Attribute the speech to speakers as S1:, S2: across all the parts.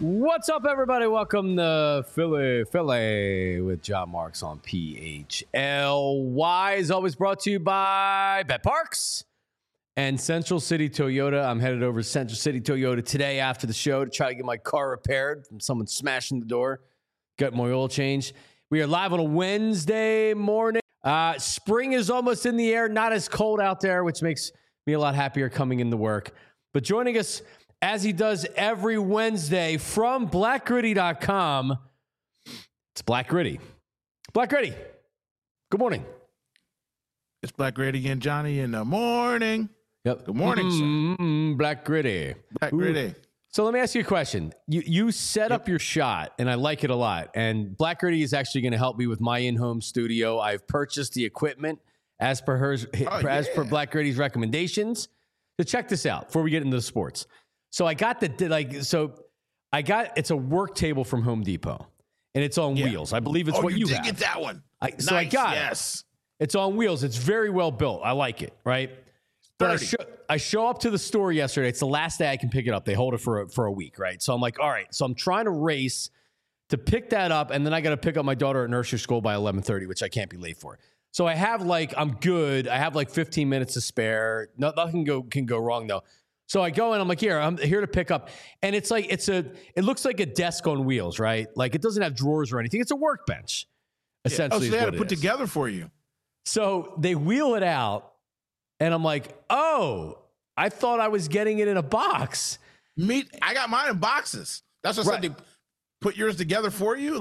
S1: What's up, everybody? Welcome to Philly with John Marks on PHLY. Is always brought to you by Bet Parks and Central City Toyota. I'm headed over to Central City Toyota today after the show to try to get my car repaired from someone smashing the door. Got my oil change. We are live on a Wednesday morning. Spring is almost in the air, not as cold out there, which makes me a lot happier coming into work. But joining us, as he does every Wednesday from blackgritty.com, it's Black Gritty. Black Gritty, good morning.
S2: It's Black Gritty again, Johnny, in the morning.
S1: Yep.
S2: Good morning, sir.
S1: Black Gritty.
S2: Black Gritty.
S1: So let me ask you a question. You set up your shot, and I like it a lot. And Black Gritty is actually going to help me with my in-home studio. I've purchased the equipment as per Black Gritty's recommendations. So check this out before we get into the sports. So I got it's a work table from Home Depot, and it's on wheels. I believe it's what you have.
S2: Get that one.
S1: I got it. It's on wheels. It's very well built. I like it, right? But I show up to the store yesterday. It's the last day I can pick it up. They hold it for a week, right? So I'm like, all right. So I'm trying to race to pick that up, and then I got to pick up my daughter at nursery school by 11:30, which I can't be late for. So I have I'm good. I have 15 minutes to spare. Nothing can go wrong though. So I go and I'm like, I'm here to pick up. And it's like, it looks like a desk on wheels, right? Like it doesn't have drawers or anything. It's a workbench, essentially.
S2: So they had it put together for you. So
S1: they wheel it out and I'm like, oh, I thought I was getting it in a box.
S2: I got mine in boxes. That's what they put yours together for you.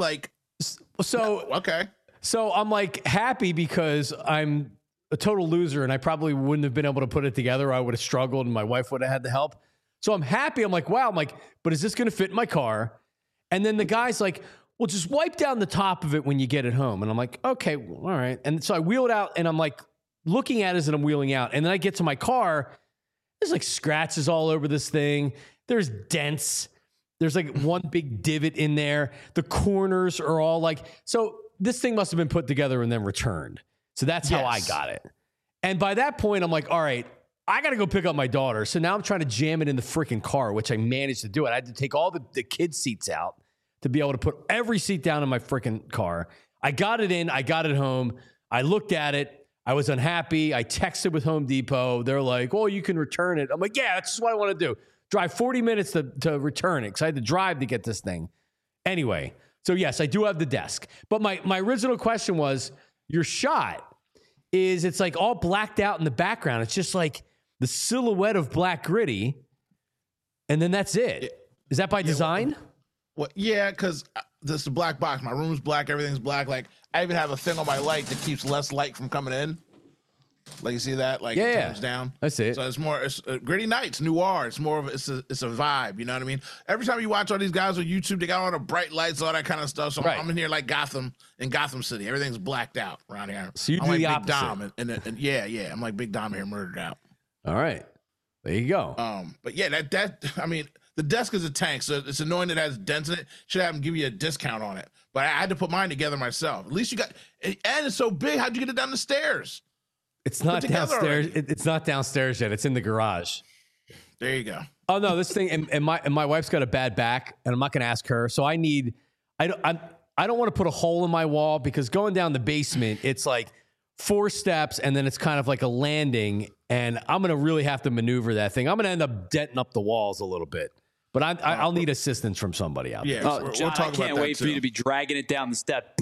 S2: Okay.
S1: So I'm like happy because I'm a total loser and I probably wouldn't have been able to put it together. I would have struggled and my wife would have had the help. So I'm happy. I'm like, wow. But is this going to fit in my car? And then the guy's like, well, just wipe down the top of it when you get it home. And I'm like, okay, all right. And so I wheel it out and I'm like looking at it as I'm wheeling out. And then I get to my car. There's scratches all over this thing. There's dents. There's one big divot in there. The corners are all so this thing must have been put together and then returned. So that's how I got it. And by that point, I'm like, all right, I got to go pick up my daughter. So now I'm trying to jam it in the freaking car, which I managed to do it. I had to take all the kids' seats out to be able to put every seat down in my freaking car. I got it in. I got it home. I looked at it. I was unhappy. I texted with Home Depot. They're like, oh, you can return it. I'm like, yeah, that's just what I want to do. Drive 40 minutes to return it because I had to drive to get this thing. Anyway, so yes, I do have the desk. But my original question was, your shot it's all blacked out in the background. It's just the silhouette of Black Gritty, and then that's it. Is that by design?
S2: Well, yeah, because this is a black box. My room's black. Everything's black. I even have a thing on my light that keeps less light from coming in. You see that? It turns down.
S1: I see it.
S2: So it's Gritty Nights, noir. It's more of it's a vibe. You know what I mean? Every time you watch all these guys on YouTube, they got all the bright lights, all that kind of stuff. So I'm in here like Gotham in Gotham City. Everything's blacked out around here.
S1: So you do the opposite.
S2: Big Dom, and yeah. I'm like Big Dom here, murdered out.
S1: All right, there you go.
S2: But yeah, the desk is a tank, so it's annoying that it has dents in it. Should have them give you a discount on it. But I had to put mine together myself. At least you got, and it's so big. How'd you get it down the stairs?
S1: It's not downstairs. It's not downstairs yet. It's in the garage.
S2: There you go.
S1: Oh no, this thing and my wife's got a bad back, and I'm not going to ask her. So I don't want to put a hole in my wall because going down the basement, it's 4 steps, and then it's kind of like a landing, and I'm going to really have to maneuver that thing. I'm going to end up denting up the walls a little bit, but I'll need assistance from somebody out there.
S3: Oh, John, I can't wait for you to be dragging it down the step.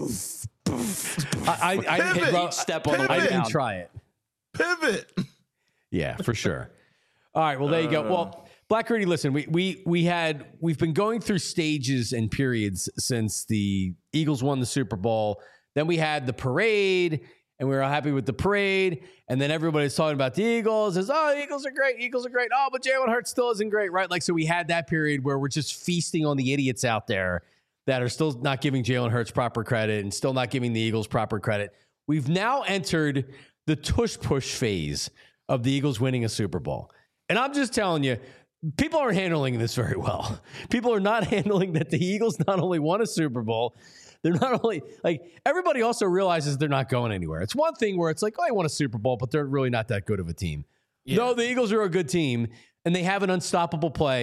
S1: I
S2: hit
S3: each step on the way down.
S1: I didn't try it.
S2: Pivot.
S1: Yeah, for sure. All right, well, there you go. Well, Black Gritty, listen, we've been going through stages and periods since the Eagles won the Super Bowl. Then we had the parade, and we were all happy with the parade. And then everybody's talking about the Eagles. Says, oh, the Eagles are great. Eagles are great. Oh, but Jalen Hurts still isn't great, right? So we had that period where we're just feasting on the idiots out there that are still not giving Jalen Hurts proper credit and still not giving the Eagles proper credit. We've now entered the tush-push phase of the Eagles winning a Super Bowl. And I'm just telling you, people aren't handling this very well. People are not handling that the Eagles not only won a Super Bowl, they're not only everybody also realizes they're not going anywhere. It's one thing where it's oh, I won a Super Bowl, but they're really not that good of a team. Yeah. No, the Eagles are a good team and they have an unstoppable play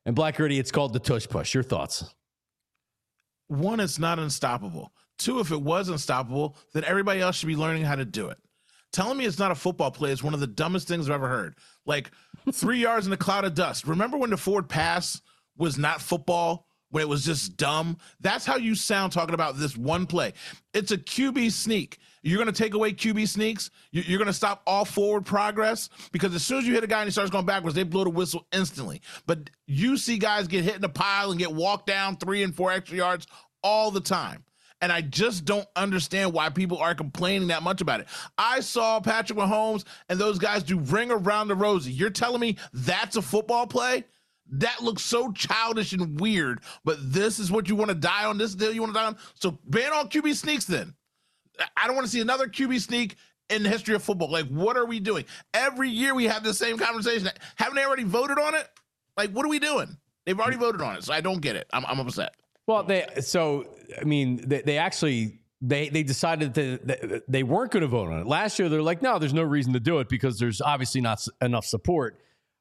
S1: And Black Gritty, it's called the tush push. Your thoughts?
S2: One, it's not unstoppable. Two, if it was unstoppable, then everybody else should be learning how to do it. Telling me it's not a football play is one of the dumbest things I've ever heard. Like 3 yards in a cloud of dust. Remember when the forward pass was not football, when it was just dumb? That's how you sound talking about this one play. It's a QB sneak. You're going to take away QB sneaks? You're going to stop all forward progress? Because as soon as you hit a guy and he starts going backwards, they blow the whistle instantly. But you see guys get hit in a pile and get walked down 3 and 4 extra yards all the time. And I just don't understand why people are complaining that much about it. I saw Patrick Mahomes and those guys do ring around the rosy. You're telling me that's a football play? That looks so childish and weird, but this is what you want to die on, this deal you want to die on? So ban all QB sneaks then. I don't want to see another QB sneak in the history of football. Like, what are we doing? Every year we have the same conversation. Haven't they already voted on it? Like, what are we doing? They've already voted on it, so I don't get it. I'm upset.
S1: Well, they actually decided that they weren't going to vote on it. Last year, they're like, no, there's no reason to do it because there's obviously not enough support.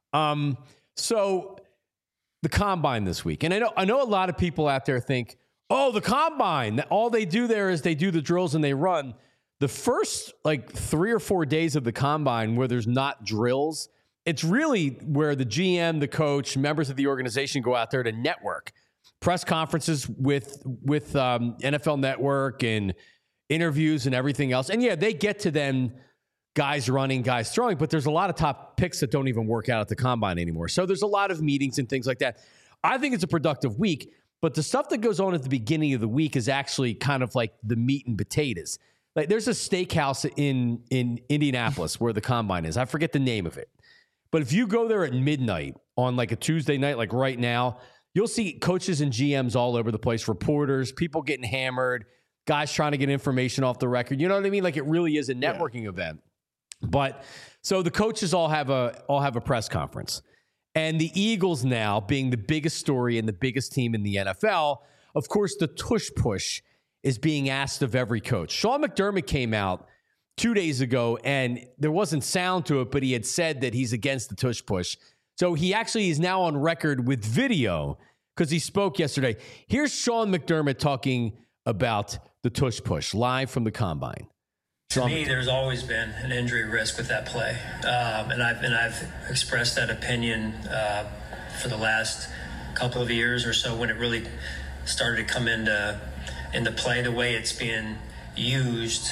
S1: So the combine this week, and I know a lot of people out there think, oh, the combine, all they do there is they do the drills and they run. The first 3 or 4 days of the combine where there's not drills, it's really where the GM, the coach, members of the organization go out there to network. Press conferences with NFL Network and interviews and everything else. And yeah, they get to them, guys running, guys throwing, but there's a lot of top picks that don't even work out at the combine anymore. So there's a lot of meetings and things like that. I think it's a productive week, but the stuff that goes on at the beginning of the week is actually kind of like the meat and potatoes. Like there's a steakhouse in Indianapolis where the combine is. I forget the name of it. But if you go there at midnight on like a Tuesday night, like right now, you'll see coaches and GMs all over the place, reporters, people getting hammered, guys trying to get information off the record. You know what I mean? Like it really is a networking event. But so the coaches all have a press conference. And the Eagles now being the biggest story and the biggest team in the NFL, of course, the tush push is being asked of every coach. Sean McDermott came out 2 days ago and there wasn't sound to it, but he had said that he's against the tush push. So he actually is now on record with video because he spoke yesterday. Here's Sean McDermott talking about the tush push live from the combine.
S4: To me, there's always been an injury risk with that play, and I've expressed that opinion for the last couple of years or so when it really started to come into play the way it's being used,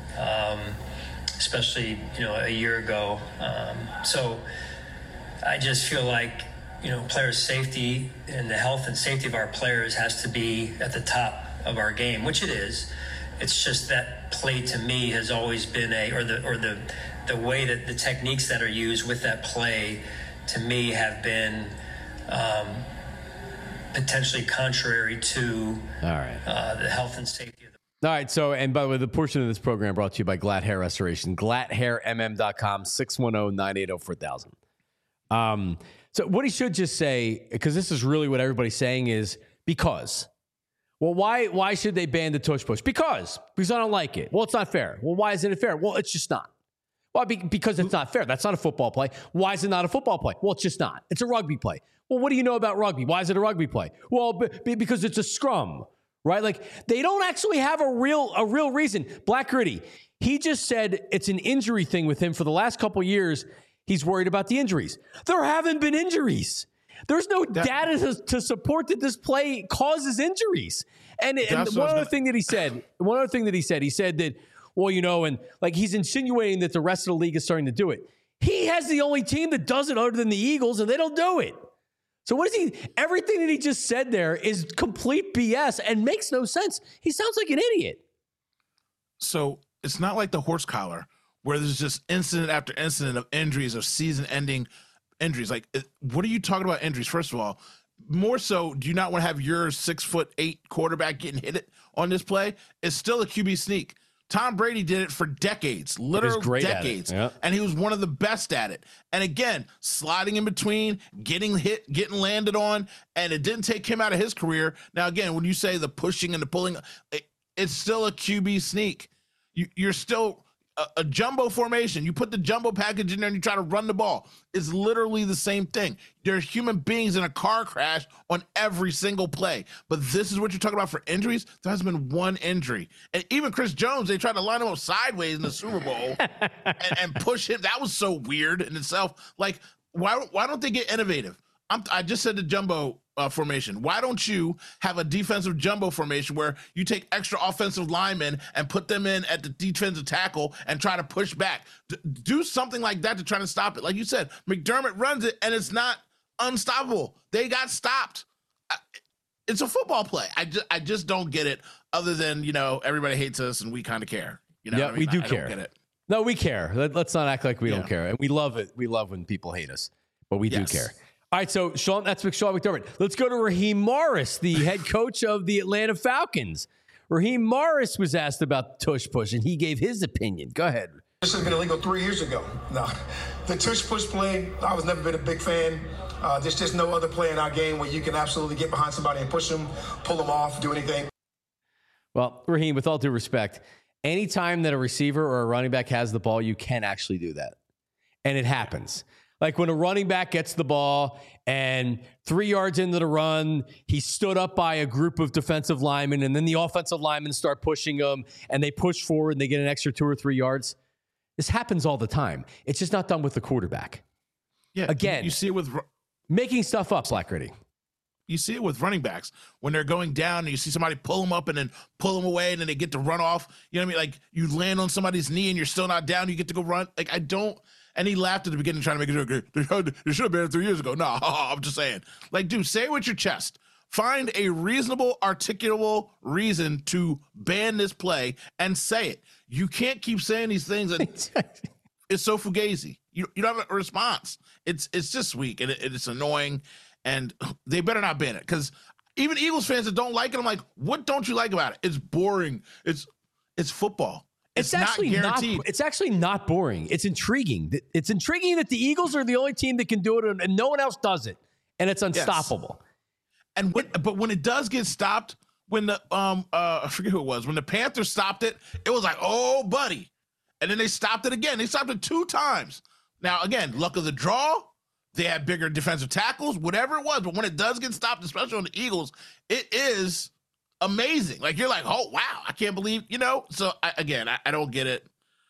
S4: especially a year ago. So I just feel like players' safety and the health and safety of our players has to be at the top of our game, which it is. It's just that play to me has always been the way that the techniques that are used with that play to me have been potentially contrary to the health and safety of the.
S1: All right. So, and by the way, the portion of this program brought to you by Glatt Hair Restoration, GlattHairMM.com, 610-980-4000. So what he should just say, because this is really what everybody's saying is because. Well, why should they ban the tush push? Because I don't like it. Well, it's not fair. Well, why isn't it fair? Well, it's just not. Well, because it's not fair. That's not a football play. Why is it not a football play? Well, it's just not. It's a rugby play. Well, what do you know about rugby? Why is it a rugby play? Well, because it's a scrum, right? Like they don't actually have a real reason. Black Gritty, he just said it's an injury thing with him for the last couple of years. He's worried about the injuries. There haven't been injuries. There's no data to support that this play causes injuries. And one other thing that he said, he said that, well, and like he's insinuating that the rest of the league is starting to do it. He has the only team that does it other than the Eagles, and they don't do it. So what is he? Everything that he just said there is complete BS and makes no sense. He sounds like an idiot.
S2: So it's not like the horse collar where there's just incident after incident of injuries, of season-ending injuries. Like, what are you talking about injuries? First of all, more so, do you not want to have your 6'8" quarterback getting hit it on this play? It's still a QB sneak. Tom Brady did it for decades, literal decades, and he was one of the best at it. And again, sliding in between, getting hit, getting landed on, and it didn't take him out of his career. Now, again, when you say the pushing and the pulling, it's still a QB sneak. You're still a jumbo formation. You put the jumbo package in there and you try to run the ball. It's literally the same thing. There's human beings in a car crash on every single play. But this is what you're talking about for injuries. There hasn't been one injury. And even Chris Jones, they tried to line him up sideways in the Super Bowl and push him. That was so weird in itself. Like, why don't they get innovative? I just said the jumbo formation. Why don't you have a defensive jumbo formation where you take extra offensive linemen and put them in at the defensive tackle and try to push back? Do something like that to try to stop it. Like you said, McDermott runs it and it's not unstoppable. They got stopped. It's a football play. I just don't get it, other than, everybody hates us and we kind of care.
S1: Yeah, we do care.
S2: I don't get it.
S1: No, we care. Let's not act like we don't care. And we love it. We love when people hate us, but we do care. All right, so Sean McDermott. Let's go to Raheem Morris, the head coach of the Atlanta Falcons. Raheem Morris was asked about the tush push, and he gave his opinion. Go ahead.
S5: This has been illegal 3 years ago. No, the tush push play, I was never been a big fan. There's just no other play in our game where you can absolutely get behind somebody and push them, pull them off, do anything.
S1: Well, Raheem, with all due respect, anytime that a receiver or a running back has the ball, you can actually do that. And it happens. Like when a running back gets the ball and 3 yards into the run, he stood up by a group of defensive linemen, and then the offensive linemen start pushing him, and they push forward and they get an extra 2 or 3 yards. This happens all the time. It's just not done with the quarterback.
S2: Yeah.
S1: Again,
S2: you see it with
S1: making stuff up, Slackritty.
S2: You see it with running backs when they're going down and you see somebody pull them up and then pull them away and then they get to run off. You know what I mean? Like you land on somebody's knee and you're still not down. You get to go run. Like I don't. And he laughed at the beginning trying to make it look good. They should have been 3 years ago. No, I'm just saying. Like, dude, say it with your chest. Find a reasonable, articulable reason to ban this play and say it. You can't keep saying these things. And it's so fugazi. You don't have a response. It's just weak and it's annoying. And they better not ban it, because even Eagles fans that don't like it, I'm like, what don't you like about it? It's boring. It's football. It's actually not guaranteed.
S1: It's actually not boring. It's intriguing. It's intriguing that the Eagles are the only team that can do it and no one else does it. And it's unstoppable.
S2: Yes. But when it does get stopped, when the I forget who it was, when the Panthers stopped it, it was like, oh, buddy. And then they stopped it again. They stopped it 2 times. Now, again, luck of the draw. They had bigger defensive tackles, whatever it was. But when it does get stopped, especially on the Eagles, it is amazing. Like, you're like, oh, wow, I can't believe, So, I don't get it.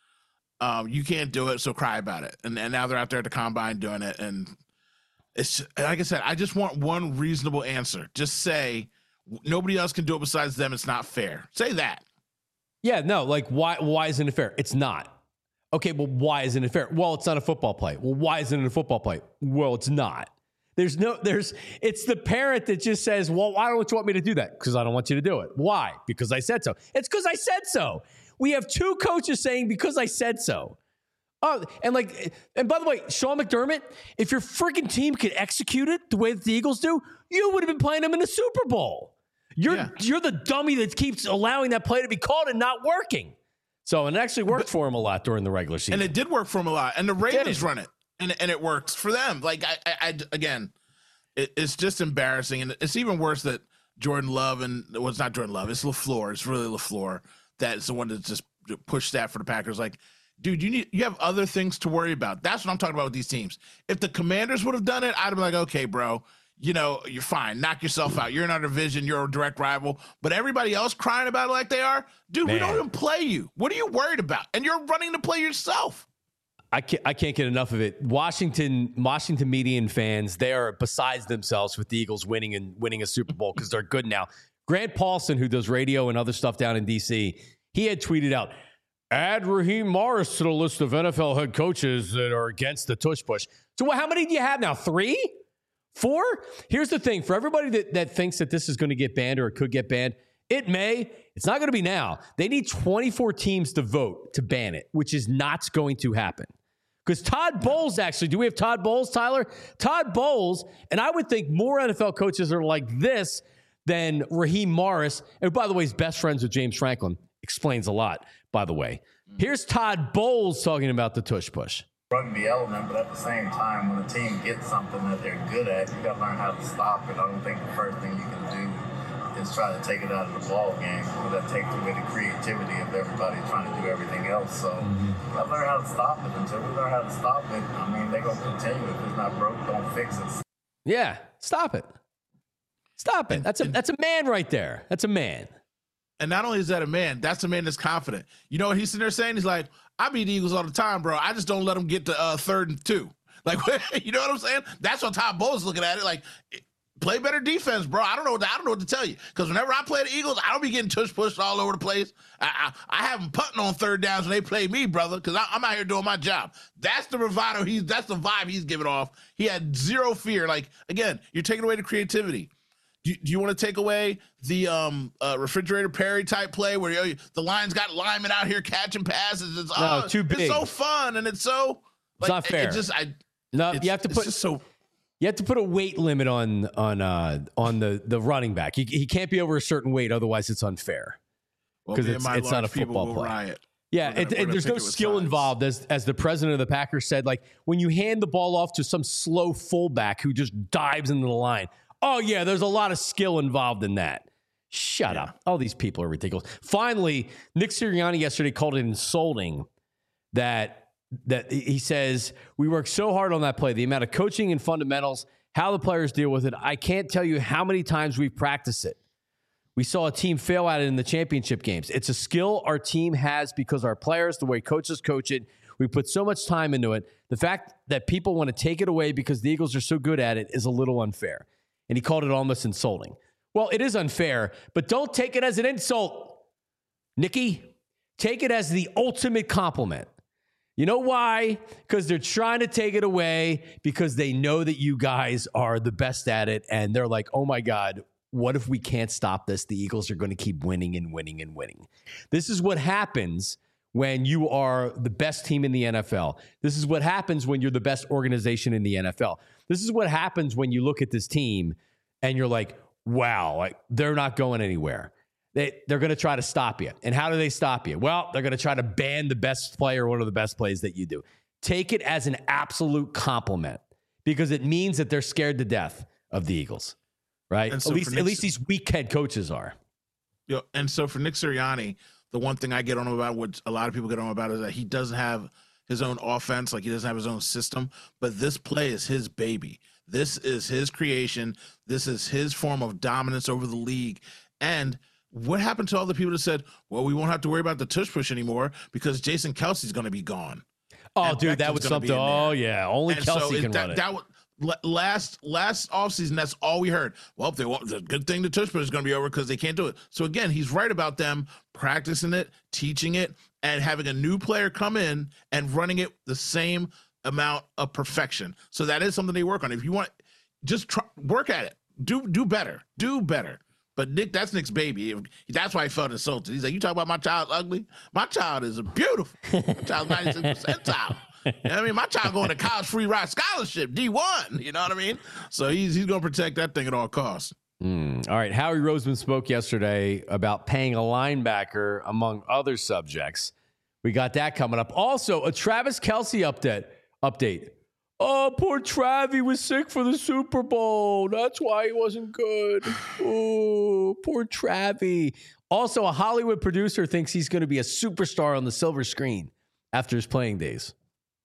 S2: You can't do it, so cry about it. And now they're out there at the combine doing it. And it's, like I said, I just want one reasonable answer. Just say, nobody else can do it besides them. It's not fair. Say that.
S1: Yeah, no, like, why isn't it fair? It's not. Okay, well, why isn't it fair? Well, it's not a football play. Well, why isn't it a football play? Well, it's not. It's the parent that just says, well, why don't you want me to do that? Because I don't want you to do it. Why? Because I said so. It's because I said so. We have 2 coaches saying because I said so. Oh, and by the way, Sean McDermott, if your freaking team could execute it the way that the Eagles do, you would have been playing them in the Super Bowl. You're the dummy that keeps allowing that play to be called and not working. So, and it actually worked for him a lot during the regular season.
S2: And it did work for him a lot. And the Ravens run it. And it works for them. Like, it's just embarrassing. And it's even worse that Jordan Love it's not Jordan Love. It's LaFleur. It's really LaFleur that's the one that just pushed that for the Packers. Like, dude, you have other things to worry about. That's what I'm talking about with these teams. If the Commanders would have done it, I'd have been like, okay, bro, you're fine. Knock yourself out. You're in our division. You're a direct rival. But everybody else crying about it like they are, dude, we don't even play you. What are you worried about? And you're running to play yourself.
S1: I can't get enough of it. Washington media and fans, they are besides themselves with the Eagles winning a Super Bowl because they're good now. Grant Paulson, who does radio and other stuff down in D.C., he had tweeted out, add Raheem Morris to the list of NFL head coaches that are against the tush push. So how many do you have now? 3? 4? Here's the thing. For everybody that thinks that this is going to get banned or it could get banned, it may. It's not going to be now. They need 24 teams to vote to ban it, which is not going to happen. Because Todd Bowles, actually, do we have Todd Bowles, Tyler? Todd Bowles, and I would think more NFL coaches are like this than Raheem Morris. And by the way, he's best friends with James Franklin. Explains a lot, by the way. Here's Todd Bowles talking about the tush push.
S6: Rugby element, but at the same time, when a team gets something that they're good at, you got to learn how to stop it. I don't think the first thing you can do just try to take it out of the ball game. That takes away the creativity of everybody trying to do everything else. So I learn how to stop it. Until we learn how to stop it, I mean, they're going to continue. If it's not broke, don't fix it.
S1: Yeah, stop it. Stop it. That's a man right there. That's a man.
S2: And not only is that a man, that's a man that's confident. You know what he's sitting there saying? He's like, I beat the Eagles all the time, bro. I just don't let them get to 3rd and 2. Like, you know what I'm saying? That's what Todd Bowles looking at it. Like, play better defense, bro. I don't know what to tell you. Because whenever I play the Eagles, I don't be getting pushed all over the place. I have them punting on 3rd downs when they play me, brother, because I'm out here doing my job. That's the bravado. That's the vibe he's giving off. He had zero fear. Like, again, you're taking away the creativity. Do you want to take away the refrigerator Perry type play where the Lions got linemen out here catching passes? It's
S1: too big.
S2: It's so fun and it's so
S1: it's not fair. You have to put a weight limit on the running back. He can't be over a certain weight, otherwise it's unfair because it's not a football play.
S2: Riot.
S1: Yeah, there's no skill involved, as the president of the Packers said. Like when you hand the ball off to some slow fullback who just dives into the line. Oh, yeah, there's a lot of skill involved in that. Shut up. All these people are ridiculous. Finally, Nick Sirianni yesterday called it insulting that he says, we worked so hard on that play, the amount of coaching and fundamentals, how the players deal with it. I can't tell you how many times we've practiced it. We saw a team fail at it in the championship games. It's a skill our team has because our players, the way coaches coach it, we put so much time into it. The fact that people want to take it away because the Eagles are so good at it is a little unfair. And he called it almost insulting. Well, it is unfair, but don't take it as an insult, Nicky. Take it as the ultimate compliment. You know why? Because they're trying to take it away because they know that you guys are the best at it. And they're like, oh my God, what if we can't stop this? The Eagles are going to keep winning and winning and winning. This is what happens when you are the best team in the NFL. This is what happens when you're the best organization in the NFL. This is what happens when you look at this team and you're like, wow, like they're not going anywhere. They're going to try to stop you. And how do they stop you? Well, they're going to try to ban the best player, one of the best plays that you do. Take it as an absolute compliment because it means that they're scared to death of the Eagles, right?
S2: So
S1: at least these weak head coaches are.
S2: And so for Nick Sirianni, the one thing I get on about, what a lot of people get on about, is that he doesn't have his own offense, like he doesn't have his own system, but this play is his baby. This is his creation. This is his form of dominance over the league. And what happened to all the people that said, well, we won't have to worry about the tush push anymore because Jason Kelce's going to be gone.
S1: Oh,
S2: and
S1: dude, that was something. Oh, yeah. Only Kelce can run it.
S2: Last offseason, that's all we heard. Well, if they want, the good thing the tush push is going to be over because they can't do it. So again, he's right about them practicing it, teaching it, and having a new player come in and running it the same amount of perfection. So that is something they work on. If you want, just work at it. Do better. But Nick, that's Nick's baby. That's why he felt insulted. He's like, you talk about my child ugly? My child is beautiful. My child's 96 percentile. You know what I mean? My child going to college free ride scholarship, D1. You know what I mean? So he's going to protect that thing at all costs.
S1: All right. Howie Roseman spoke yesterday about paying a linebacker, among other subjects. We got that coming up. Also, a Travis Kelce update. Oh, poor Travi was sick for the Super Bowl. That's why he wasn't good. Oh, poor Travi. Also, a Hollywood producer thinks he's going to be a superstar on the silver screen after his playing days.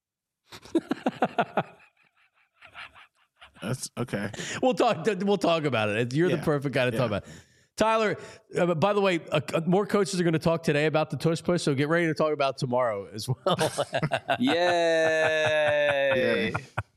S2: That's okay.
S1: We'll talk about it. You're the perfect guy to talk about it. Tyler, by the way, more coaches are going to talk today about the tush push, so get ready to talk about tomorrow as well.
S3: Yay!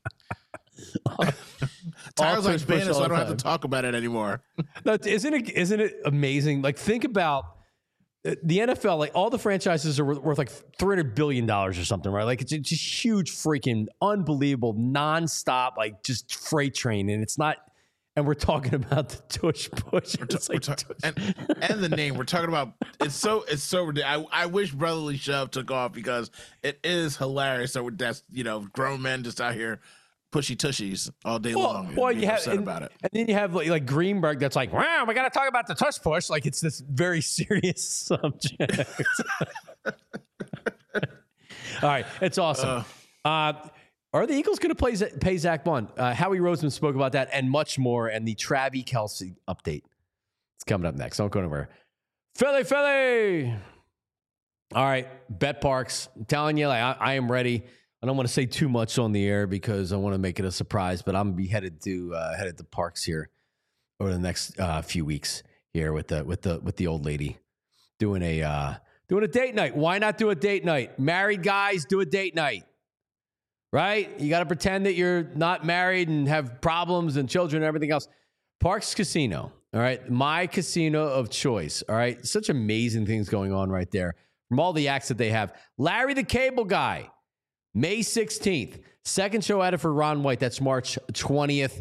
S2: Tyler's like Spanish, so I don't have to talk about it anymore.
S1: No, isn't it amazing? Like, think about the NFL. Like, all the franchises are worth like $300 billion or something, right? Like, it's just huge, freaking unbelievable, nonstop, like just freight train, and it's not. And we're talking about the tush push.
S2: And the name. We're talking about it's so ridiculous. I wish Brotherly Shove took off because it is hilarious. So that's grown men just out here pushy tushies all day long.
S1: Well, you have about it. And then you have like Greenberg that's like, wow, we got to talk about the tush push. Like it's this very serious subject. All right, it's awesome. Are the Eagles going to pay Zach Bond? Howie Roseman spoke about that and much more, and the Travis Kelce update It's coming up next. Don't go anywhere. Philly. All right, Bet Parks. I'm telling you, like, I am ready. I don't want to say too much on the air because I want to make it a surprise, but I'm gonna be headed to Parks here over the next few weeks here with the old lady doing a date night. Why not do a date night? Married guys do a date night, right? You got to pretend that you're not married and have problems and children and everything else. Parks Casino, all right, my casino of choice. All right, such amazing things going on right there from all the acts that they have. Larry the Cable Guy. May 16th, second show added for Ron White. That's March 20th.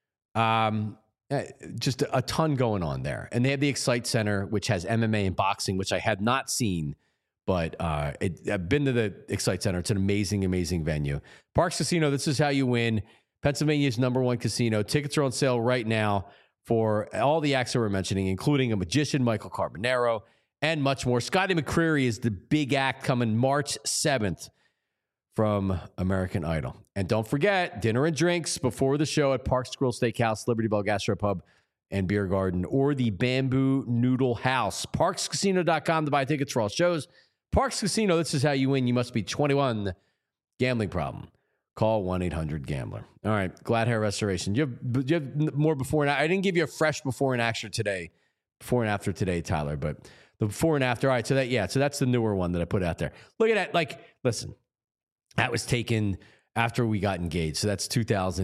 S1: Just a ton going on there. And they have the Excite Center, which has MMA and boxing, which I had not seen, but I've been to the Excite Center. It's an amazing, amazing venue. Parks Casino, this is how you win. Pennsylvania's #1 casino. Tickets are on sale right now for all the acts that we're mentioning, including a magician, Michael Carbonaro, and much more. Scotty McCreery is the big act coming March 7th. From American Idol. And don't forget, dinner and drinks before the show at Parks Grill Steakhouse, Liberty Bell Gastropub and Beer Garden, or the Bamboo Noodle House. ParksCasino.com to buy tickets for all shows. Parks Casino, this is how you win. You must be 21. Gambling problem. Call 1-800-GAMBLER. All right, Glad Hair Restoration. Do you have more before and after? I didn't give you a fresh before and after today, Tyler, but the before and after. All right, so that's the newer one that I put out there. Look at that. Like, listen. That was taken after we got engaged. So that's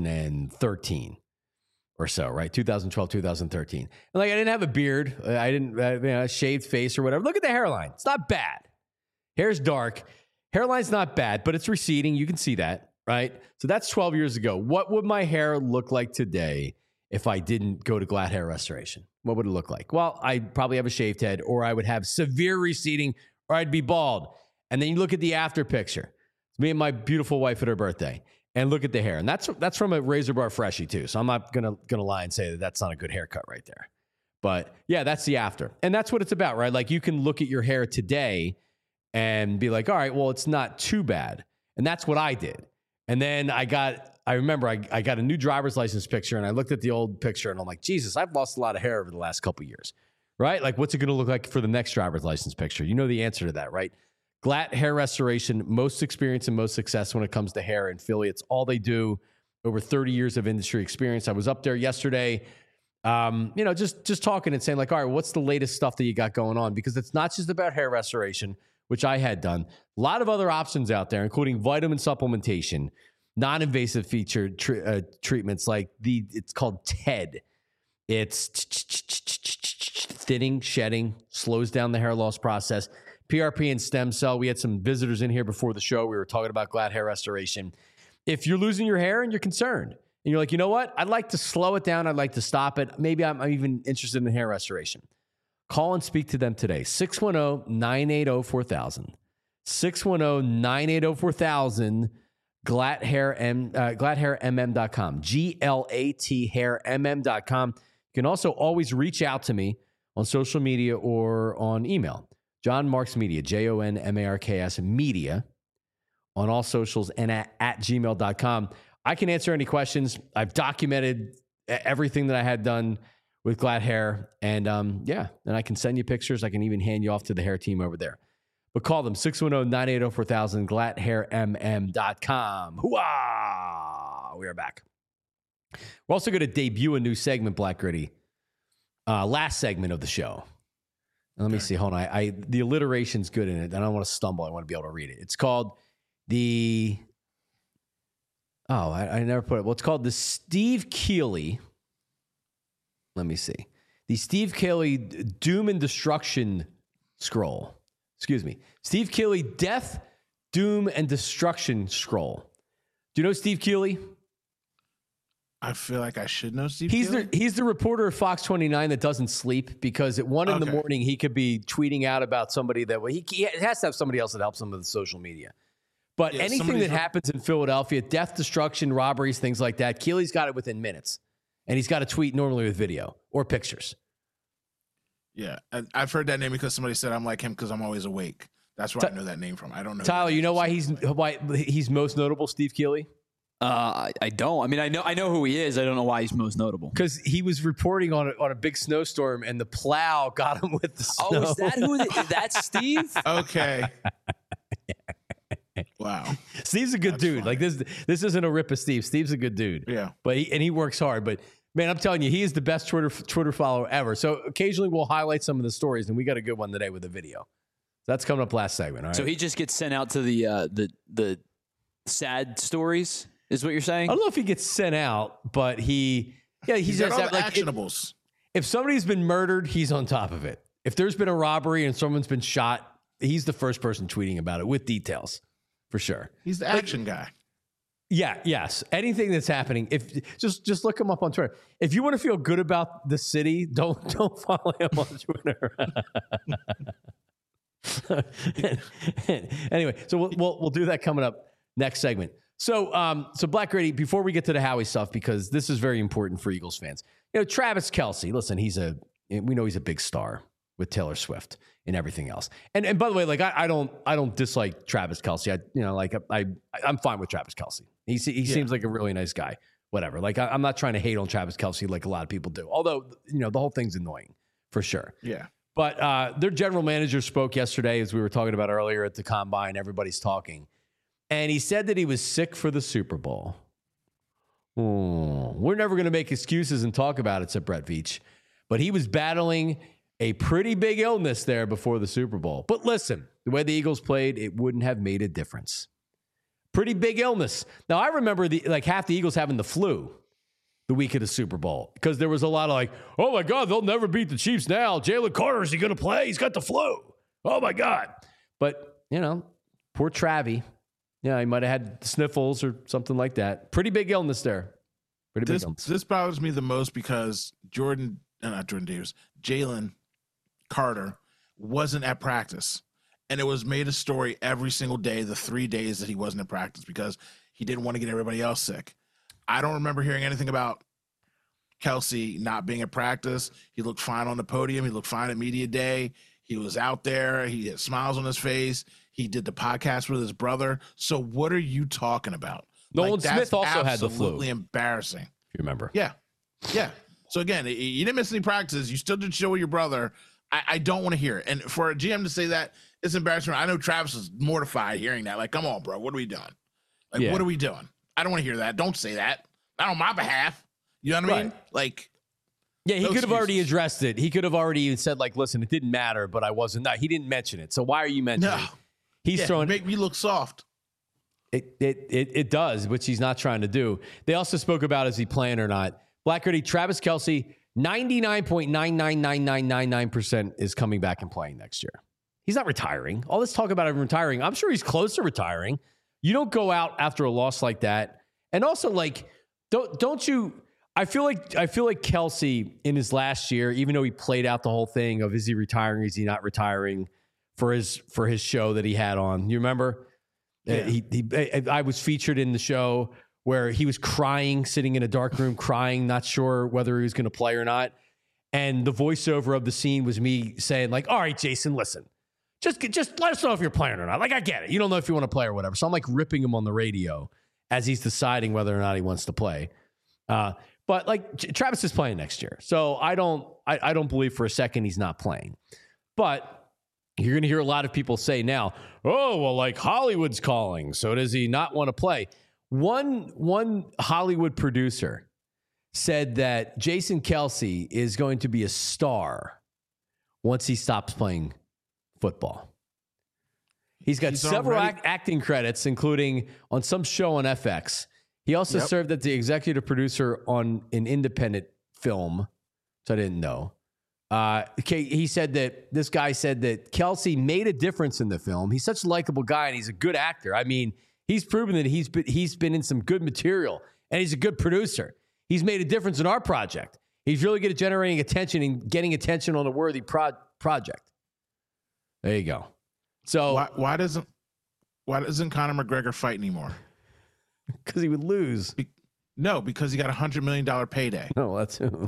S1: 2013 or so, right? 2012, 2013. And like, I didn't have a beard. I didn't shaved face or whatever. Look at the hairline. It's not bad. Hair's dark. Hairline's not bad, but it's receding. You can see that, right? So that's 12 years ago. What would my hair look like today if I didn't go to Glad Hair Restoration? What would it look like? Well, I'd probably have a shaved head, or I would have severe receding, or I'd be bald. And then you look at the after picture. Me and my beautiful wife at her birthday, and look at the hair. And that's from a Razor Bar Freshie too. So I'm not gonna lie and say that that's not a good haircut right there. But yeah, that's the after. And that's what it's about, right? Like, you can look at your hair today and be like, all right, well, it's not too bad. And that's what I did. And then I remember I got a new driver's license picture, and I looked at the old picture, and I'm like, Jesus, I've lost a lot of hair over the last couple of years, right? Like, what's it gonna look like for the next driver's license picture? You know the answer to that, right? Glad Hair Restoration, most experience and most success when it comes to hair in Philly. It's all they do. Over 30 years of industry experience. I was up there yesterday, just talking and saying, like, all right, what's the latest stuff that you got going on? Because it's not just about hair restoration, which I had done. A lot of other options out there, including vitamin supplementation, non-invasive feature treatments like it's called TED. It's thinning, shedding, slows down the hair loss process. PRP and stem cell. We had some visitors in here before the show. We were talking about Glad Hair Restoration. If you're losing your hair and you're concerned, and you're like, you know what? I'd like to slow it down. I'd like to stop it. Maybe I'm even interested in hair restoration. Call and speak to them today. 610-980-4000. 610-980-4000. GladHairMM.com. GLATHairMM.com. You can also always reach out to me on social media or on email. John Marks Media, JONMARKS Media, on all socials and at gmail.com. I can answer any questions. I've documented everything that I had done with Glad Hair. And and I can send you pictures. I can even hand you off to the hair team over there. But call them, 610-980-4000, GladHairMM.com. Hooah! We are back. We're also going to debut a new segment, Black Gritty. Last segment of the show. Let me see. Hold on. The alliteration's good in it. I don't want to stumble. I want to be able to read it. It's called I never put it. Well, it's called the Steve Keeley. Let me see. The Steve Keeley Doom and Destruction Scroll. Excuse me. Steve Keeley Death, Doom, and Destruction Scroll. Do you know Steve Keeley?
S2: I feel like I should know Steve Keeley.
S1: He's the reporter at Fox 29 that doesn't sleep, because at 1 in the morning he could be tweeting out about somebody that he has to have somebody else that helps him with the social media. But anything that happens in Philadelphia, death, destruction, robberies, things like that, Keeley's got it within minutes. And he's got a tweet normally with video or pictures.
S2: Yeah, I've heard that name because somebody said I'm like him because I'm always awake. That's where I know that name from. I don't know.
S1: Tyler, you know why he's most notable, Steve Keeley?
S3: I don't. I mean, I know who he is. I don't know why he's most notable.
S1: Because he was reporting on a big snowstorm, and the plow got him with the snow.
S3: Oh, is that who? That's Steve?
S2: Okay. Wow.
S1: Steve's a good dude.
S2: funny.
S1: Like this isn't a rip of Steve. Steve's a good dude.
S2: Yeah.
S1: But he works hard. But man, I'm telling you, he is the best Twitter follower ever. So occasionally we'll highlight some of the stories, and we got a good one today with a video. So that's coming up last segment. All right.
S3: So he just gets sent out to the sad stories, is what you're saying?
S1: I don't know if he gets sent out, but he's
S2: got
S1: just
S2: all the
S1: like
S2: actionables.
S1: if somebody's been murdered, he's on top of it. If there's been a robbery and someone's been shot, he's the first person tweeting about it with details, for sure.
S2: He's the action guy.
S1: Yeah, yes. Anything that's happening, if just look him up on Twitter. If you want to feel good about the city, don't follow him on Twitter. Anyway, so we'll do that coming up next segment. So Black Grady, before we get to the Howie stuff, because this is very important for Eagles fans. You know, Travis Kelce, listen, we know he's a big star with Taylor Swift and everything else. And by the way, like I don't dislike Travis Kelce. I'm fine with Travis Kelce. He seems like a really nice guy. Whatever. Like I'm not trying to hate on Travis Kelce like a lot of people do. Although, you know, the whole thing's annoying for sure.
S2: Yeah.
S1: But their general manager spoke yesterday, as we were talking about earlier at the Combine. Everybody's talking. And he said that he was sick for the Super Bowl. We're never going to make excuses and talk about it, said Brett Veach. But he was battling a pretty big illness there before the Super Bowl. But listen, the way the Eagles played, it wouldn't have made a difference. Pretty big illness. Now, I remember half the Eagles having the flu the week of the Super Bowl, because there was a lot of like, oh my God, they'll never beat the Chiefs now. Jalen Carter, is he going to play? He's got the flu. Oh my God. But, you know, poor Travie. Yeah, he might have had the sniffles or something like that. Pretty big illness there. Pretty big illness.
S2: This bothers me the most because Jalen Carter wasn't at practice. And it was made a story every single day, the 3 days that he wasn't at practice, because he didn't want to get everybody else sick. I don't remember hearing anything about Kelce not being at practice. He looked fine on the podium. He looked fine at media day. He was out there. He had smiles on his face. He did the podcast with his brother. So what are you talking about?
S1: Nolan Smith also had the flu.
S2: Absolutely embarrassing.
S1: If you remember.
S2: Yeah. So again, you didn't miss any practices. You still did show with your brother. I don't want to hear it. And for a GM to say that, it's embarrassing. I know Travis is mortified hearing that. Like, come on, bro. What are we doing? Like, what are we doing? I don't want to hear that. Don't say that. Not on my behalf. You know what I mean? Like,
S1: yeah, he could have already addressed it. He could have already said, like, listen, it didn't matter, but I wasn't. No, he didn't mention it. So why are you mentioning it? He's throwing.
S2: Make me look soft.
S1: It does, which he's not trying to do. They also spoke about, is he playing or not? Black Grady, Travis Kelce, 99.999999% is coming back and playing next year. He's not retiring. All this talk about him retiring, I'm sure he's close to retiring. You don't go out after a loss like that. And also, like, don't you? I feel like Kelce in his last year, even though he played out the whole thing of is he retiring, is he not retiring for his show that he had on. You remember? Yeah. I was featured in the show where he was crying, sitting in a dark room, crying, not sure whether he was going to play or not. And the voiceover of the scene was me saying, like, all right, Jason, listen, just let us know if you're playing or not. Like, I get it. You don't know if you want to play or whatever. So I'm like ripping him on the radio as he's deciding whether or not he wants to play. But like Travis is playing next year. So I don't believe for a second he's not playing. But you're going to hear a lot of people say now, oh, well, like Hollywood's calling. So does he not want to play? One Hollywood producer said that Jason Kelce is going to be a star once he stops playing football. He's got several acting credits, including on some show on FX. He also served as the executive producer on an independent film, which I didn't know. He said that this guy said that Kelce made a difference in the film. He's such a likable guy, and he's a good actor. I mean, he's proven that he's been in some good material, and he's a good producer. He's made a difference in our project. He's really good at generating attention and getting attention on a worthy project. There you go. So
S2: why doesn't Conor McGregor fight anymore?
S1: Because he would lose.
S2: No, because he got $100 million payday.
S1: No, that's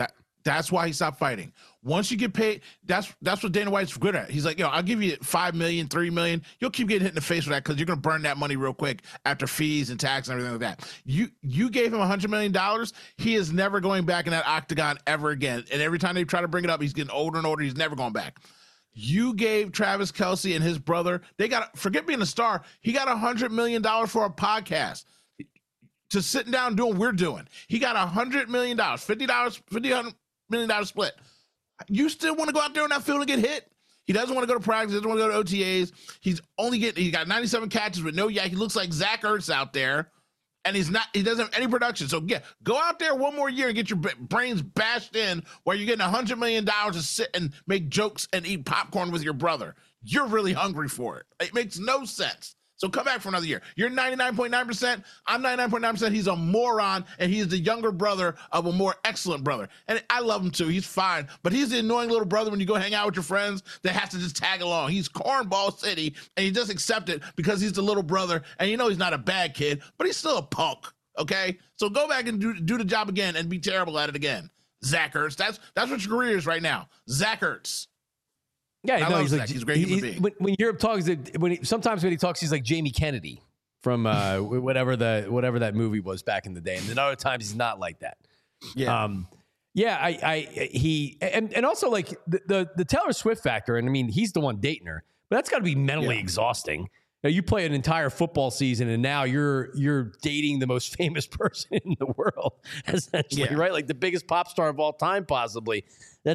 S2: That's why he stopped fighting. Once you get paid, that's what Dana White's good at. He's like, I'll give you $5 million, $3 million. You'll keep getting hit in the face with that because you're going to burn that money real quick after fees and tax and everything like that. You gave him $100 million. He is never going back in that octagon ever again. And every time they try to bring it up, he's getting older and older. He's never going back. You gave Travis Kelce and his brother, forget being a star. He got $100 million for a podcast. To sitting down doing what we're doing. He got $100 million, $50 million split. You still want to go out there on that field and get hit? He doesn't want to go to practice, doesn't want to go to OTAs. He got 97 catches with no yak. He looks like Zach Ertz out there, and he doesn't have any production. So go out there one more year and get your brains bashed in while you're getting $100 million to sit and make jokes and eat popcorn with your brother. You're really hungry for it. It makes no sense. So come back for another year. You're 99.9%. I'm 99.9%. He's a moron, and he's the younger brother of a more excellent brother. And I love him too. He's fine. But he's the annoying little brother when you go hang out with your friends that has to just tag along. He's cornball city, and you just accept it because he's the little brother. And you know he's not a bad kid, but he's still a punk. Okay? So go back and do the job again and be terrible at it again. Zach Ertz. That's what your career is right now. Zach Ertz.
S1: Yeah,
S2: he's a great human being.
S1: When Europe talks, sometimes when he talks, he's like Jamie Kennedy from whatever that movie was back in the day, and then other times he's not like that.
S2: Yeah,
S1: and also like the Taylor Swift factor, and I mean he's the one dating her, but that's got to be mentally exhausting. You play an entire football season, and now you're dating the most famous person in the world, essentially, right? Like the biggest pop star of all time, possibly.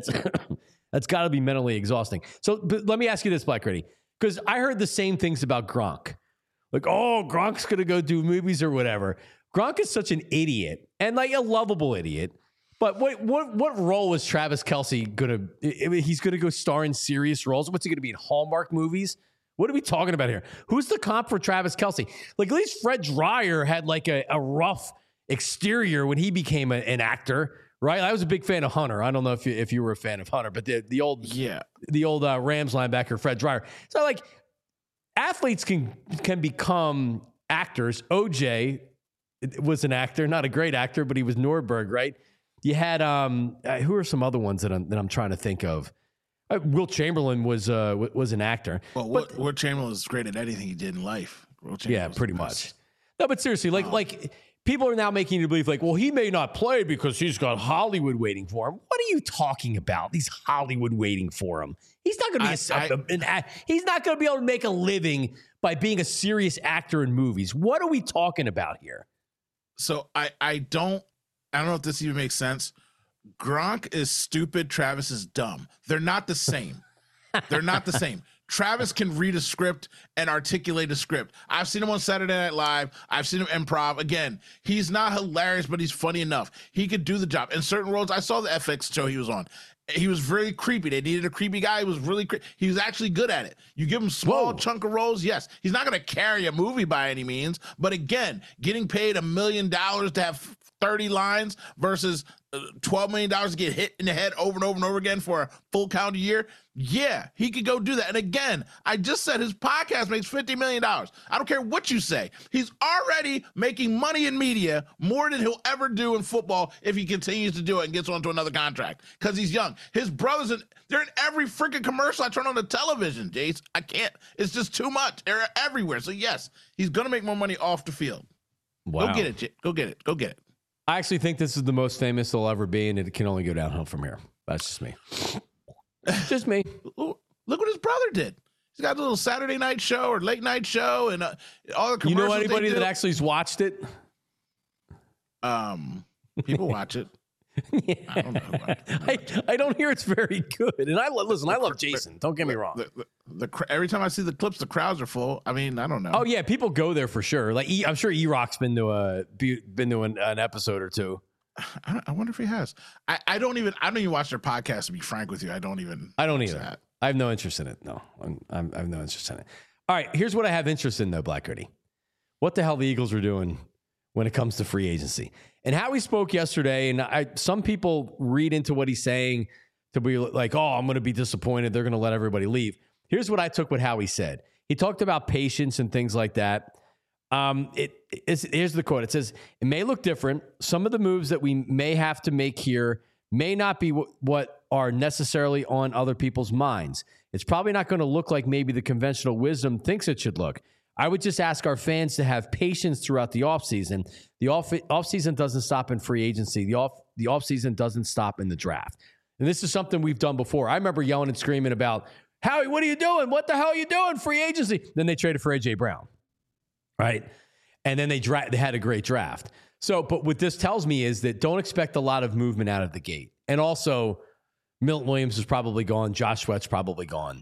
S1: That's got to be mentally exhausting. So but let me ask you this, Black Ready, because I heard the same things about Gronk. Like, Gronk's going to go do movies or whatever. Gronk is such an idiot and like a lovable idiot. But what role is Travis Kelce going to? He's going to go star in serious roles. What's he going to be in Hallmark movies? What are we talking about here? Who's the comp for Travis Kelce? Like at least Fred Dryer had like a rough exterior when he became an actor. Right, I was a big fan of Hunter. I don't know if you were a fan of Hunter, but the old Rams linebacker Fred Dryer. So like, athletes can become actors. OJ was an actor, not a great actor, but he was Nordberg, right? You had who are some other ones that I'm trying to think of? Will Chamberlain was an actor.
S2: Well, Will Chamberlain was great at anything he did in life.
S1: Yeah, pretty much. No, but seriously, like. People are now making you believe like, well, he may not play because he's got Hollywood waiting for him. What are you talking about? He's Hollywood waiting for him. He's not going to be he's not going to be able to make a living by being a serious actor in movies. What are we talking about here?
S2: So I don't know if this even makes sense. Gronk is stupid. Travis is dumb. They're not the same. They're not the same. Travis can read a script and articulate a script. I've seen him on Saturday Night Live. I've seen him improv. Again, he's not hilarious, but he's funny enough. He could do the job. In certain roles, I saw the FX show he was on. He was very creepy. They needed a creepy guy. He was really he was actually good at it. You give him small chunk of roles, yes. He's not going to carry a movie by any means. But again, getting paid $1 million to have 30 lines versus $12 million to get hit in the head over and over and over again for a full calendar year. Yeah, he could go do that. And again, I just said his podcast makes $50 million. I don't care what you say. He's already making money in media more than he'll ever do in football if he continues to do it and gets onto another contract because he's young. His brothers, they're in every freaking commercial I turn on the television, Jace. I can't. It's just too much. They're everywhere. So yes, he's going to make more money off the field. Wow. Go get it, Jay. Go get it. Go get it.
S1: I actually think this is the most famous they'll ever be, and it can only go downhill from here. That's just me. Just me.
S2: Look what his brother did. He's got a little Saturday night show or late night show, and all the commercials.
S1: You know anybody that actually has watched it?
S2: People watch it.
S1: Yeah. I don't know. I don't hear it's very good. And I love Jason. Don't get me wrong.
S2: Every time I see the clips, the crowds are full. I mean, I don't know.
S1: Oh yeah, people go there for sure. Like I'm sure E-Rock's been to an episode or two.
S2: I wonder if he has. I don't even watch their podcast. To be frank with you, I don't either.
S1: That. I have no interest in it. No, I have no interest in it. All right, here's what I have interest in though, Black Goody. What the hell the Eagles are doing when it comes to free agency. And how he spoke yesterday, and some people read into what he's saying to be like, oh, I'm going to be disappointed. They're going to let everybody leave. Here's what I took what Howie said. He talked about patience and things like that. Here's the quote. It says, it may look different. Some of the moves that we may have to make here may not be what are necessarily on other people's minds. It's probably not going to look like maybe the conventional wisdom thinks it should look. I would just ask our fans to have patience throughout the offseason. The offseason doesn't stop in free agency. The offseason doesn't stop in the draft. And this is something we've done before. I remember yelling and screaming about, Howie, what are you doing? What the hell are you doing? Free agency. Then they traded for A.J. Brown, right? And then they had a great draft. So, but what this tells me is that don't expect a lot of movement out of the gate. And also, Milton Williams is probably gone. Josh Sweat's probably gone.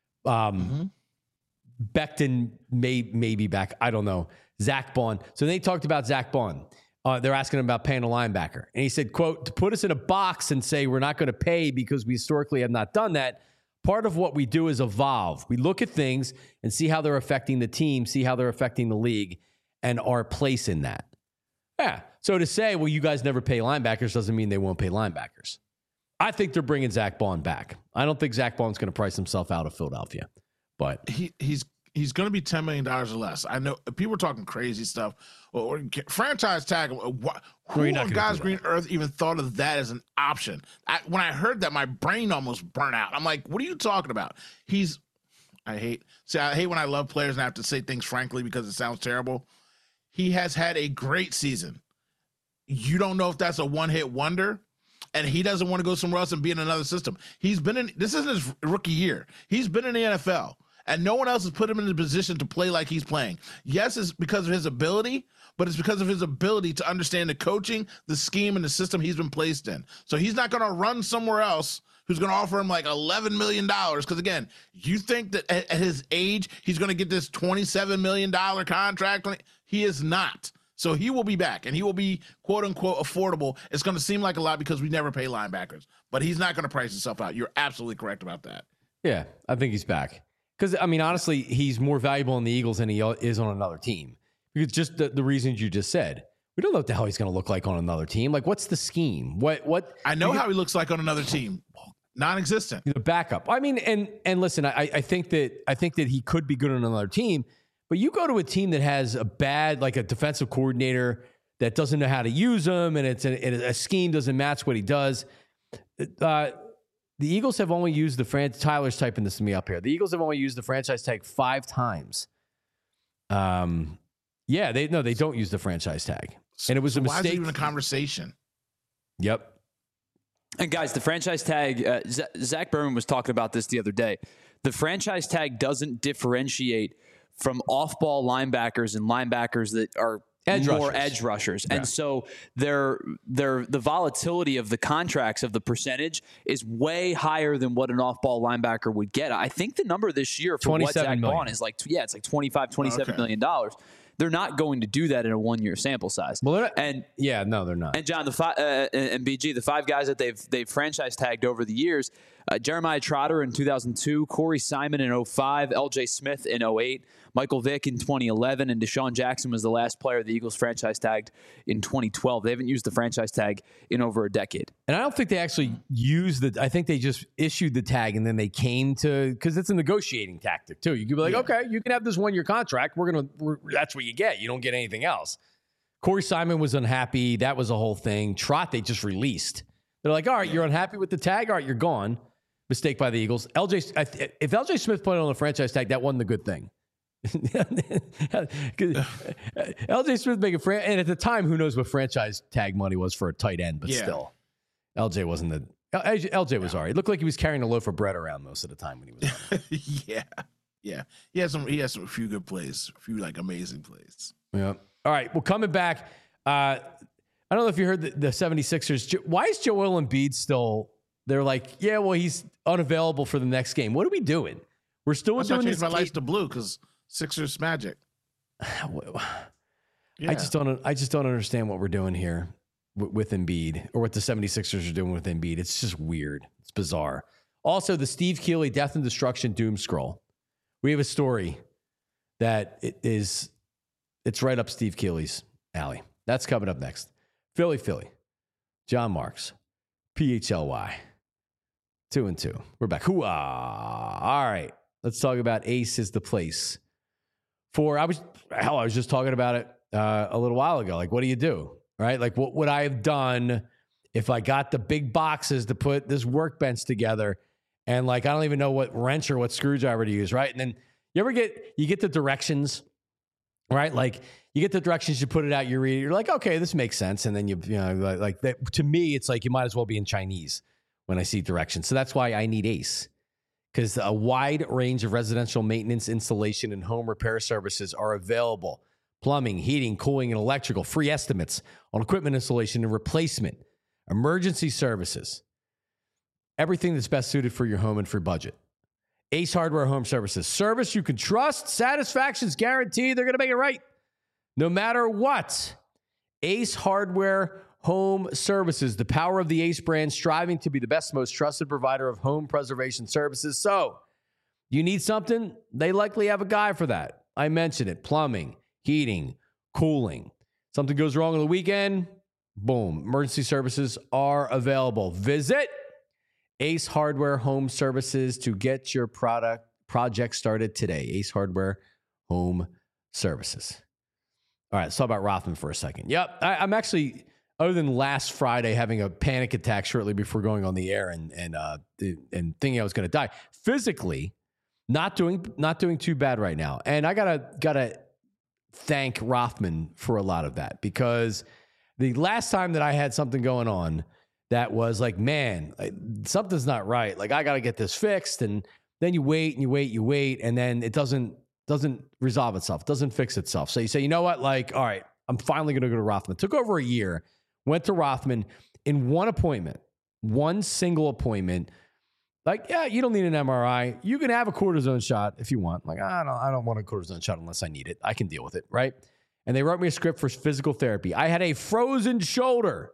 S1: Becton may be back. I don't know. Zach Bond. So they talked about Zach Bond. They're asking him about paying a linebacker. And he said, quote, to put us in a box and say we're not going to pay because we historically have not done that, part of what we do is evolve. We look at things and see how they're affecting the team, see how they're affecting the league, and our place in that. Yeah. So to say, well, you guys never pay linebackers doesn't mean they won't pay linebackers. I think they're bringing Zach Bond back. I don't think Zach Bond's going to price himself out of Philadelphia. But
S2: he's going to be $10 million or less. I know people are talking crazy stuff. Or franchise tag. Who on God's green earth even thought of that as an option? When I heard that, my brain almost burnt out. I'm like, what are you talking about? I hate when I love players and I have to say things frankly because it sounds terrible. He has had a great season. You don't know if that's a one-hit wonder. And he doesn't want to go somewhere else and be in another system. This isn't his rookie year. He's been in the NFL, and no one else has put him in the position to play like he's playing. Yes, it's because of his ability, but it's because of his ability to understand the coaching, the scheme, and the system he's been placed in. So he's not going to run somewhere else who's going to offer him like $11 million. Because, again, you think that at his age he's going to get this $27 million contract? He is not. So he will be back, and he will be, quote-unquote, affordable. It's going to seem like a lot because we never pay linebackers. But he's not going to price himself out. You're absolutely correct about that.
S1: Yeah, I think he's back. Because, I mean, honestly, he's more valuable in the Eagles than he is on another team. Because just the reasons you just said. We don't know what the hell he's going to look like on another team. Like, what's the scheme? What?
S2: I know how he looks like on another team. Non-existent.
S1: The backup. I mean, and listen, I think that he could be good on another team. But you go to a team that has a defensive coordinator that doesn't know how to use him, and a scheme doesn't match what he does. The Eagles have only used Tyler's typing this to me up here. The Eagles have only used the franchise tag 5 times. They don't use the franchise tag, and it was a mistake.
S2: Why is it even a conversation?
S1: Yep.
S3: And guys, the franchise tag. Zach Berman was talking about this the other day. The franchise tag doesn't differentiate from off-ball linebackers and linebackers that are edge rushers. Yeah. And so the volatility of the contracts of the percentage is way higher than what an off-ball linebacker would get. I think the number this year for what Zach Bond is like, it's like $27 million. They're not going to do that in a 1-year sample size.
S1: Well, they're not.
S3: And John, and BG, the 5 guys that they've franchise tagged over the years, Jeremiah Trotter in 2002, Corey Simon in 2005, L.J. Smith in 2008, Michael Vick in 2011, and Deshaun Jackson was the last player the Eagles franchise tagged in 2012. They haven't used the franchise tag in over a decade.
S1: And I don't think they actually used I think they just issued the tag and then they came to, because it's a negotiating tactic too. You could be like, okay, you can have this 1-year contract. That's what you get. You don't get anything else. Corey Simon was unhappy. That was a whole thing. Trot, they just released. They're like, all right, you're unhappy with the tag. All right, you're gone. Mistake by the Eagles. If L.J. Smith put it on the franchise tag, that wasn't a good thing. L.J. Smith making and at the time, who knows what franchise tag money was for a tight end, but still, L.J. wasn't L.J. was all right. It looked like he was carrying a loaf of bread around most of the time when he was
S2: on. Yeah. He has a few good plays, a few amazing plays.
S1: Yeah. All right. Well, coming back, I don't know if you heard the 76ers. Why is Joel Embiid still? They're like, yeah, well, he's unavailable for the next game. What are we doing? We're still doing this.
S2: My lights to blue because Sixers magic.
S1: Yeah. I just don't understand what we're doing here with Embiid, or what the 76ers are doing with Embiid. It's just weird. It's bizarre. Also, the Steve Keeley Death and Destruction doom scroll. We have a story that it's right up Steve Keeley's alley. That's coming up next. Philly. John Marks. PHLY. 2-2. We're back. Hooah. All right. Let's talk about Ace is the place. I was just talking about it a little while ago. Like, what do you do? Right? Like, what would I have done if I got the big boxes to put this workbench together, and like I don't even know what wrench or what screwdriver to use, right? And then you get the directions, right? Like you get the directions, you put it out, you read it, you're like, okay, this makes sense. And then you know, like that, to me, it's like you might as well be in Chinese when I see directions. So that's why I need Ace, because a wide range of residential maintenance, installation, and home repair services are available. Plumbing, heating, cooling, and electrical. Free estimates on equipment installation and replacement. Emergency services. Everything that's best suited for your home and for budget. Ace Hardware Home Services. Service you can trust. Satisfaction's guaranteed. They're going to make it right no matter what. Ace Hardware Home Services. The power of the Ace brand, striving to be the best, most trusted provider of home preservation services. So, you need something? They likely have a guy for that. I mentioned it. Plumbing, heating, cooling. Something goes wrong on the weekend, boom. Emergency services are available. Visit Ace Hardware Home Services to get your project started today. Ace Hardware Home Services. All right, let's talk about Rothman for a second. Yep, I'm actually, other than last Friday having a panic attack shortly before going on the air and thinking I was going to die, physically not doing too bad right now. And I gotta thank Rothman for a lot of that, because the last time that I had something going on that was like, man, something's not right. Like I got to get this fixed. And then you wait and you wait, you wait. And then it doesn't resolve itself. Doesn't fix itself. So you say, you know what? Like, all right, I'm finally going to go to Rothman. Took over a year, went to Rothman in one single appointment. Like, yeah, you don't need an MRI. You can have a cortisone shot if you want. Like, I don't want a cortisone shot unless I need it. I can deal with it, right? And they wrote me a script for physical therapy. I had a frozen shoulder.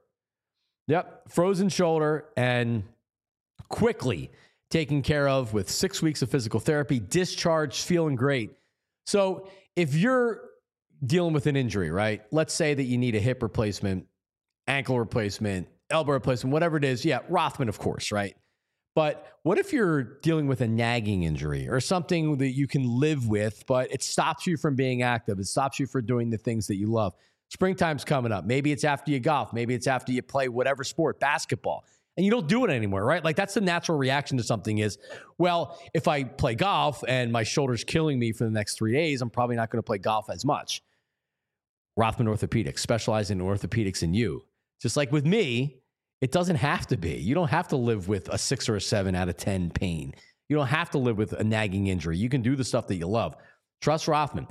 S1: Yep, frozen shoulder, and quickly taken care of with 6 weeks of physical therapy, discharged, feeling great. So if you're dealing with an injury, right? Let's say that you need a hip replacement, ankle replacement, elbow replacement, whatever it is. Yeah, Rothman, of course, right? But what if you're dealing with a nagging injury or something that you can live with, but it stops you from being active? It stops you from doing the things that you love. Springtime's coming up. Maybe it's after you golf. Maybe it's after you play whatever sport, basketball, and you don't do it anymore, right? Like that's the natural reaction to something is, well, if I play golf and my shoulder's killing me for the next 3 days, I'm probably not going to play golf as much. Rothman Orthopedics, specializing in orthopedics in you. Just like with me, it doesn't have to be. You don't have to live with a 6 or a 7 out of 10 pain. You don't have to live with a nagging injury. You can do the stuff that you love. Trust Rothman.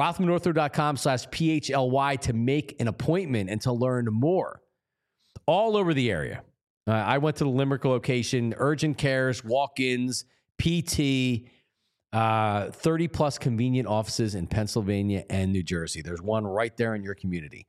S1: RothmanOrtho.com/PHLY to make an appointment and to learn more. All over the area. I went to the Limerick location, urgent cares, walk-ins, PT, 30-plus convenient offices in Pennsylvania and New Jersey. There's one right there in your community.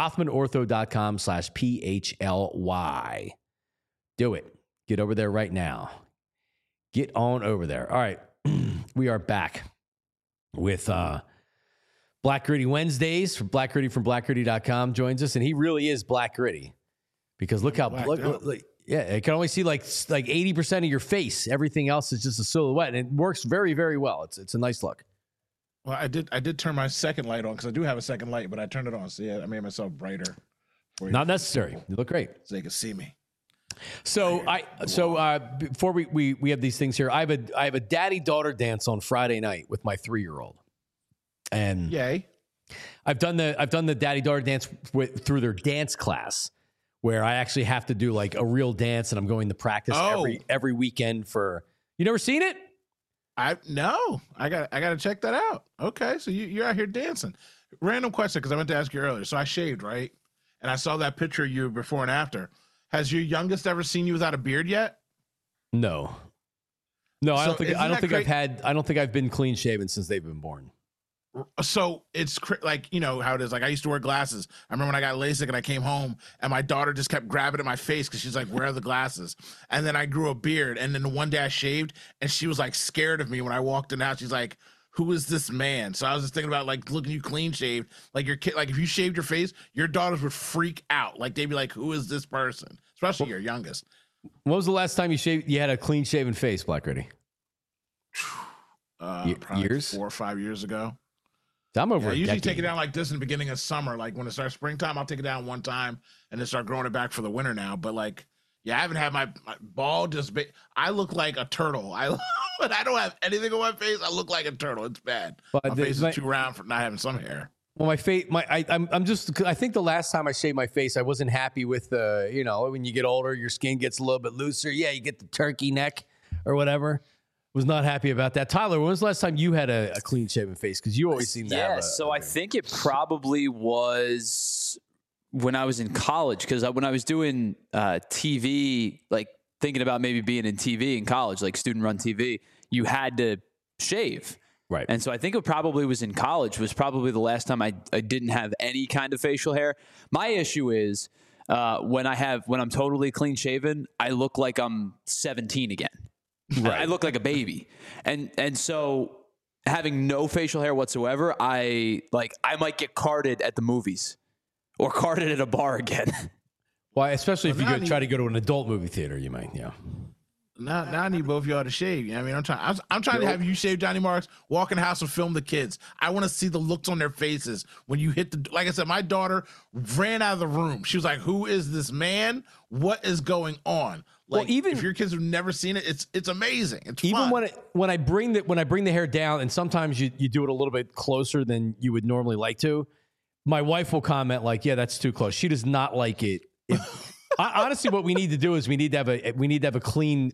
S1: RothmanOrtho.com/PHLY. Do it. Get over there right now. Get on over there. All right. We are back with Black Gritty Wednesdays. Black Gritty from BlackGritty.com joins us, and he really is Black Gritty, because look how yeah, I can only see like 80% of your face. Everything else is just a silhouette, and it works very, very well. It's a nice look.
S2: Well, I did turn my second light on, because I do have a second light, but I turned it on. So yeah, I made myself brighter.
S1: Not necessary. You look great.
S2: So they can see me.
S1: So before we have these things here, I have a daddy-daughter dance on Friday night with my 3-year-old. And
S2: yay.
S1: I've done the daddy-daughter dance through their dance class, where I actually have to do like a real dance, and I'm going to practice every weekend for. You never seen it?
S2: No. I got to check that out. Okay, so you're out here dancing. Random question, because I meant to ask you earlier. So I shaved, right? And I saw that picture of you before and after. Has your youngest ever seen you without a beard yet?
S1: No. No, I don't think I've been clean shaven since they've been born.
S2: So it's like, you know how it is. Like I used to wear glasses. I remember when I got LASIK and I came home and my daughter just kept grabbing at my face because she's like, where are the glasses? And then I grew a beard. And then one day I shaved and she was like scared of me when I walked in the house. She's like, who is this man? So I was just thinking about like looking you clean shaved, like your kid, like if you shaved your face, your daughters would freak out. Like they'd be like, who is this person? Especially your youngest.
S1: When was the last time you had a clean shaven face, Black Gritty?
S2: Probably
S1: years?
S2: 4 or 5 years ago.
S1: I'm over
S2: I
S1: a
S2: usually
S1: decade.
S2: take it down like this in the beginning of summer. Like when it starts springtime, I'll take it down one time and then start growing it back for the winter now. But like, yeah, I haven't had my bald just I look like a turtle. But I don't have anything on my face. I look like a turtle. It's bad.
S1: But
S2: My face is too round for not having some hair.
S1: Well, my face, I think the last time I shaved my face, I wasn't happy with when you get older, your skin gets a little bit looser. Yeah, you get the turkey neck or whatever. Was not happy about that. Tyler, when was the last time you had a clean shaven face? Because you always seem to have
S3: I think it probably was when I was in college. Because when I was doing TV, like thinking about maybe being in TV in college, like student-run TV, you had to shave.
S1: Right.
S3: And so I think it probably was in college, was probably the last time I didn't have any kind of facial hair. My issue is when I'm totally clean shaven, I look like I'm 17 again. Right. I look like a baby. And so having no facial hair whatsoever, I might get carded at the movies or carded at a bar again.
S1: Well, especially if you try to go to an adult movie theater, you might, yeah.
S2: Now I need both of y'all to shave. You know what I mean, I'm trying to have you shave Johnny Marks, walk in the house and film the kids. I want to see the looks on their faces when you hit like I said, my daughter ran out of the room. She was like, "Who is this man? What is going on?" Like, even if your kids have never seen it, it's amazing. It's
S1: even
S2: fun.
S1: when I bring the hair down, and sometimes you do it a little bit closer than you would normally like to. My wife will comment like, "Yeah, that's too close." She does not like it. Honestly, what we need to do is we need to have a clean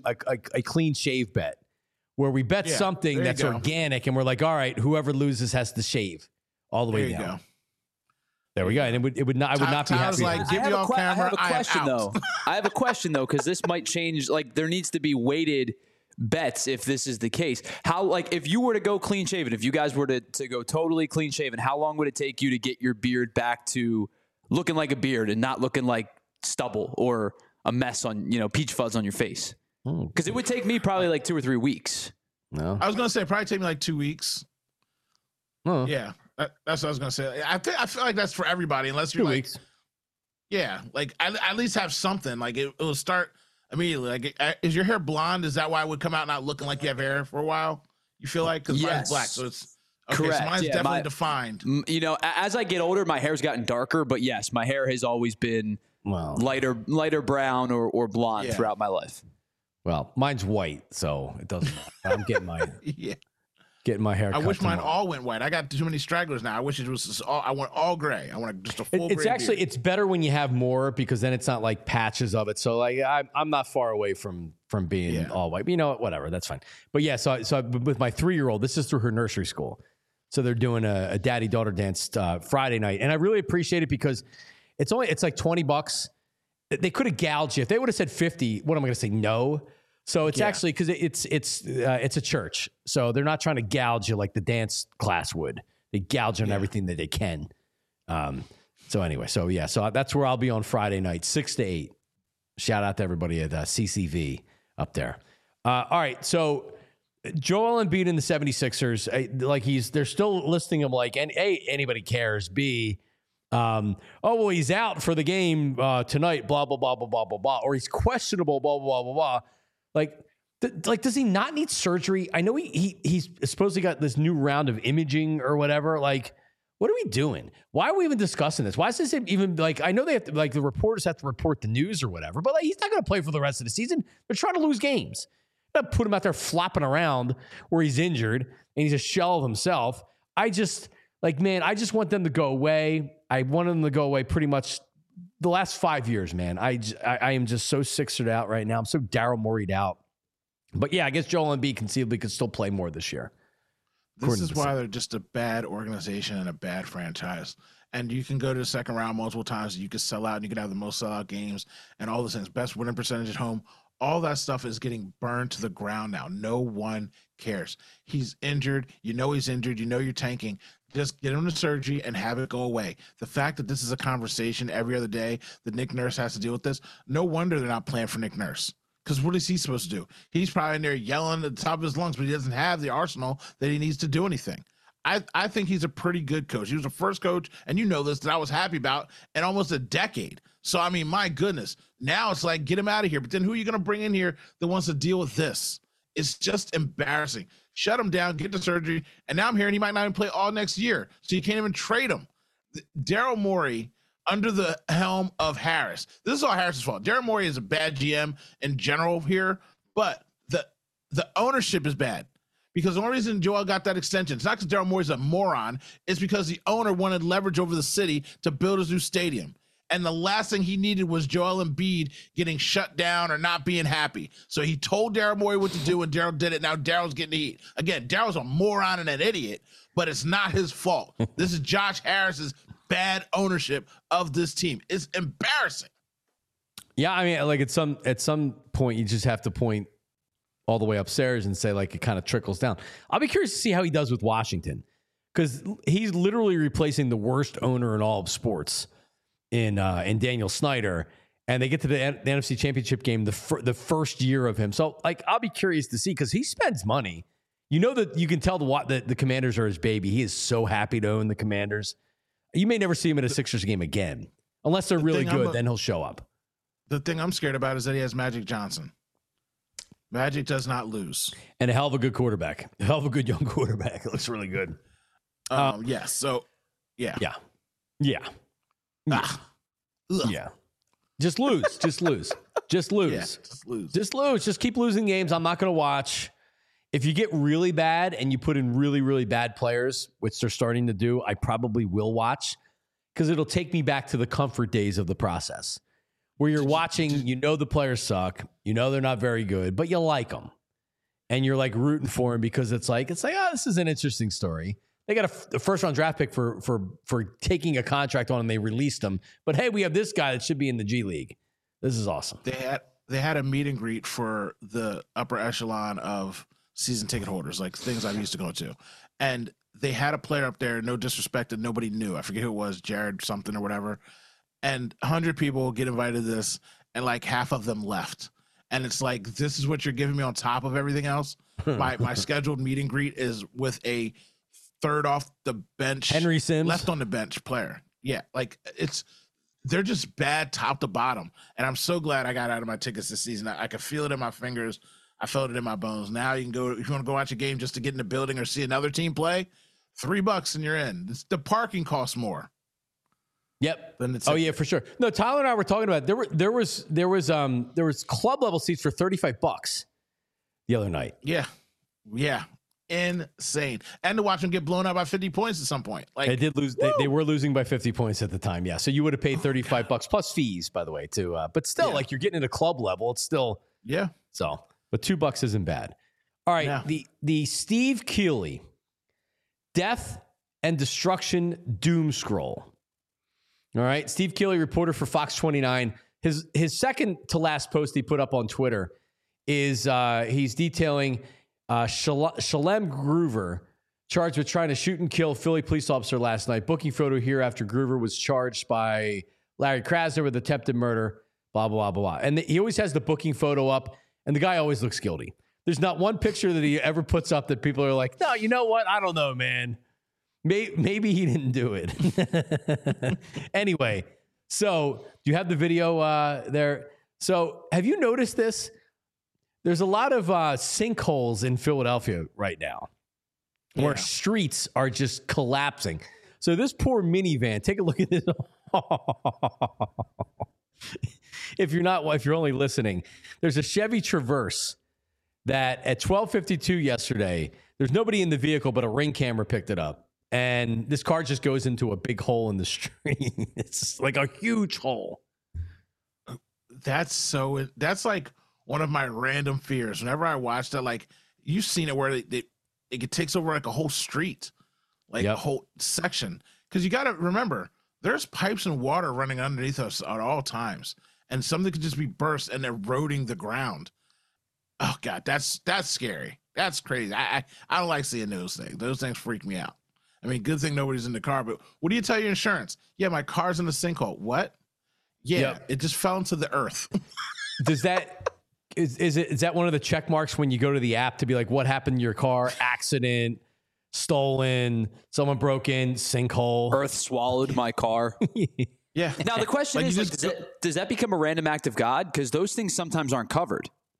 S1: shave bet where we bet something that's organic, and we're like, all right, whoever loses has to shave all the way down. Go. There we go. And I would not be happy.
S2: Like, give me all camera.
S3: I have a question though, because this might change. Like, there needs to be weighted bets if this is the case. How, like, if you were to go clean shaven, if you guys were to go totally clean shaven, how long would it take you to get your beard back to looking like a beard and not looking like stubble or a mess on, peach fuzz on your face? Because it would take me probably like 2 or 3 weeks.
S2: No, I was gonna say probably take me like 2 weeks. Oh, yeah, that's what I was gonna say. I feel like that's for everybody, unless you're
S1: 2 weeks.
S2: Yeah, like at least have something. Like it will start immediately. Like, is your hair blonde? Is that why it would come out not looking like you have hair for a while? You feel like, because mine's black, so it's okay.
S3: Correct.
S2: So mine's definitely defined.
S3: As I get older, my hair's gotten darker, but yes, my hair has always been lighter brown or blonde throughout my life.
S1: Well, mine's white, so it doesn't matter. I'm getting my getting my hair cut.
S2: I wish mine all went white. I got too many stragglers now. I wish it was I want all gray. I want just a full
S1: It's
S2: gray
S1: actually
S2: beard.
S1: It's better when you have more, because then it's not like patches of it. So like I'm not far away from being all white. But you know what? Whatever, that's fine. But yeah, so with my 3-year-old, this is through her nursery school. So they're doing a daddy-daughter dance Friday night, and I really appreciate it because it's like $20. They could have gouged you if they would have said 50. What am I going to say? No. So it's actually because it's a church, so they're not trying to gouge you like the dance class would. They gouge on everything that they can. So anyway, so that's where I'll be on Friday night, 6 to 8. Shout out to everybody at CCV up there. All right, so Joel Embiid and the 76ers, they're still listing him like, and A, anybody cares. B, he's out for the game tonight, blah, blah, blah, blah, blah, blah, blah. Or he's questionable, blah, blah, blah, blah, blah. Like, does he not need surgery? I know he's supposedly got this new round of imaging or whatever. Like, what are we doing? Why are we even discussing this? Why is this even, like, I know they have to, like, the reporters have to report the news or whatever, but like, he's not going to play for the rest of the season. They're trying to lose games. Not put him out there flopping around where he's injured and he's a shell of himself. I just want them to go away. I want them to go away pretty much the last 5 years, man. I am just so sixered out right now. I'm so Daryl Morey'd out. But yeah, I guess Joel Embiid conceivably could still play more this year.
S2: This is why they're just a bad organization and a bad franchise. And you can go to the second round multiple times. You can sell out and you can have the most sellout games and all those things. Best winning percentage at home. All that stuff is getting burned to the ground now. No one cares. He's injured. You know he's injured. You know you're tanking. Just get him to surgery and have it go away. The fact that this is a conversation every other day that Nick Nurse has to deal with this, no wonder they're not playing for Nick Nurse. Because what is he supposed to do? He's probably in there yelling at the top of his lungs, but he doesn't have the arsenal that he needs to do anything. I think he's a pretty good coach. He was the first coach, and you know this, that I was happy about in almost a decade. So, I mean, my goodness. Now it's like, get him out of here. But then who are you going to bring in here that wants to deal with this? It's just embarrassing. Shut him down, get the surgery, and now I'm hearing he might not even play all next year, so you can't even trade him. Daryl Morey, under the helm of Harris. This is all Harris's fault. Daryl Morey is a bad GM in general here, but the ownership is bad. Because the only reason Joel got that extension, it's not because Daryl Morey's a moron, it's because the owner wanted leverage over the city to build his new stadium. And the last thing he needed was Joel Embiid getting shut down or not being happy. So he told Daryl Morey what to do, and Daryl did it. Now Daryl's getting the heat. Again, Daryl's a moron and an idiot, but it's not his fault. This is Josh Harris's bad ownership of this team. It's embarrassing.
S1: Yeah, I mean, like at some point, you just have to point all the way upstairs and say, like, it kind of trickles down. I'll be curious to see how he does with Washington, because he's literally replacing the worst owner in all of sports in Daniel Snyder, and they get to the NFC Championship game the first year of him. So, like, I'll be curious to see, because he spends money. You know that you can tell the Commanders are his baby. He is so happy to own the Commanders. You may never see him at a Sixers game again, unless they're really good. Then he'll show up.
S2: The thing I'm scared about is that he has Magic Johnson. Magic does not lose.
S1: And a hell of a good quarterback. A hell of a good young quarterback. It looks really good.
S2: Yeah. So, yeah.
S1: Yeah. Yeah. Yeah. Just lose. Just lose. Just lose.
S2: Yeah, just lose.
S1: Just lose. Just keep losing games. I'm not going to watch. If you get really bad and you put in really, really bad players, which they're starting to do, I probably will watch, because it'll take me back to the comfort days of the process, where you're watching, you know the players suck, you know they're not very good, but you like them. And you're like rooting for them because it's like, oh, this is an interesting story. They got a first-round draft pick for taking a contract on, and they released him. But hey, we have this guy that should be in the G League. This is awesome.
S2: They had a meet and greet for the upper echelon of season ticket holders, like things I'm used to going to. And they had a player up there, no disrespect, that nobody knew. I forget who it was, Jared something or whatever. And 100 people get invited to this, and like half of them left. And it's like, this is what you're giving me on top of everything else? My scheduled meet and greet is with a third off the bench,
S1: Henry Sims,
S2: left on the bench player. Yeah, like they're just bad top to bottom. And I'm so glad I got out of my tickets this season. I could feel it in my fingers. I felt it in my bones. Now you can go, if you want to go watch a game just to get in the building or see another team play, $3 and you're in. The parking costs more.
S1: Yep. Oh yeah, for sure. No, Tyler and I were talking about it. There was club level seats for $35 the other night.
S2: Yeah. Insane. And to watch them get blown out by 50 points at some point. Like
S1: they did lose. They were losing by 50 points at the time. Yeah. So you would have paid $35 plus fees, by the way, too. But still, like, you're getting at a club level. It's still So, but $2 isn't bad. All right. Yeah. The Steve Keeley Death and Destruction Doom Scroll. All right. Steve Keeley, reporter for Fox 29. His second to last post he put up on Twitter is he's detailing Shalem Groover, charged with trying to shoot and kill Philly police officer last night. Booking photo here after Groover was charged by Larry Krasner with attempted murder, blah, blah, blah, blah. And he always has the booking photo up, and the guy always looks guilty. There's not one picture that he ever puts up that people are like, no, you know what? I don't know, man. Maybe he didn't do it. Anyway, so do you have the video there? So have you noticed this? There's a lot of sinkholes in Philadelphia right now where streets are just collapsing. So this poor minivan, take a look at this. If you're only listening, there's a Chevy Traverse that at 12:52 yesterday, there's nobody in the vehicle, but a Ring camera picked it up. And this car just goes into a big hole in the street. It's like a huge hole.
S2: That's like one of my random fears. Whenever I watch that, like, you've seen it where it takes over like a whole street, like a whole section. Because you got to remember, there's pipes and water running underneath us at all times, and something could just be burst and eroding the ground. Oh God, that's scary. That's crazy. I don't like seeing those things. Those things freak me out. I mean, good thing nobody's in the car, but what do you tell your insurance? Yeah, my car's in the sinkhole. What? Yeah, It just fell into the earth.
S1: Does that is that one of the check marks when you go to the app to be like, what happened to your car? Accident, stolen, someone broke in, sinkhole,
S3: earth swallowed my car.
S2: Yeah.
S3: Now the question is, does that become a random act of God? Because those things sometimes aren't covered.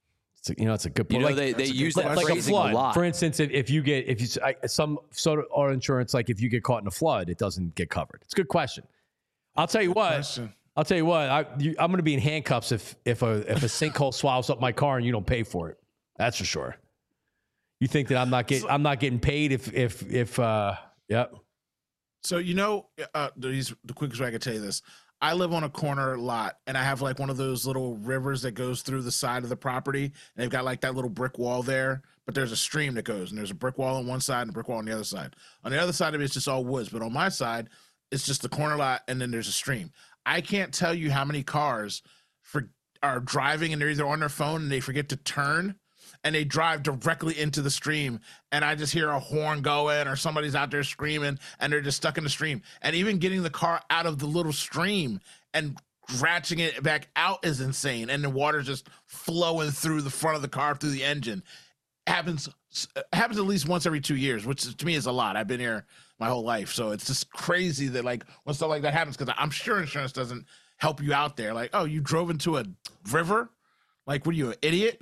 S1: It's a good
S3: You
S1: point.
S3: know, they use that
S1: like a
S3: phrasing
S1: flood.
S3: a lot.
S1: For instance, some sort of auto insurance, like if you get caught in a flood, it doesn't get covered. It's a good question. I'll tell you what. I'm going to be in handcuffs if a sinkhole swallows up my car and you don't pay for it. That's for sure. You think that I'm not getting paid if yep.
S2: So the quickest way I could tell you this. I live on a corner lot, and I have like one of those little rivers that goes through the side of the property. And they've got like that little brick wall there, but there's a stream that goes, and there's a brick wall on one side and a brick wall on the other side. On the other side of it, it's just all woods, but on my side, it's just the corner lot, and then there's a stream. I can't tell you how many cars are driving, and they're either on their phone and they forget to turn, and they drive directly into the stream, and I just hear a horn going or somebody's out there screaming, and they're just stuck in the stream. And even getting the car out of the little stream and ratcheting it back out is insane, and the water's just flowing through the front of the car, through the engine. Happens at least once every 2 years, which to me is a lot. I've been here my whole life, so it's just crazy that like when stuff like that happens, because I'm sure insurance doesn't help you out there. Like, oh, you drove into a river? Like, what are you, an idiot?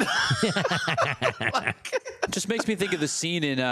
S3: Just makes me think of the scene in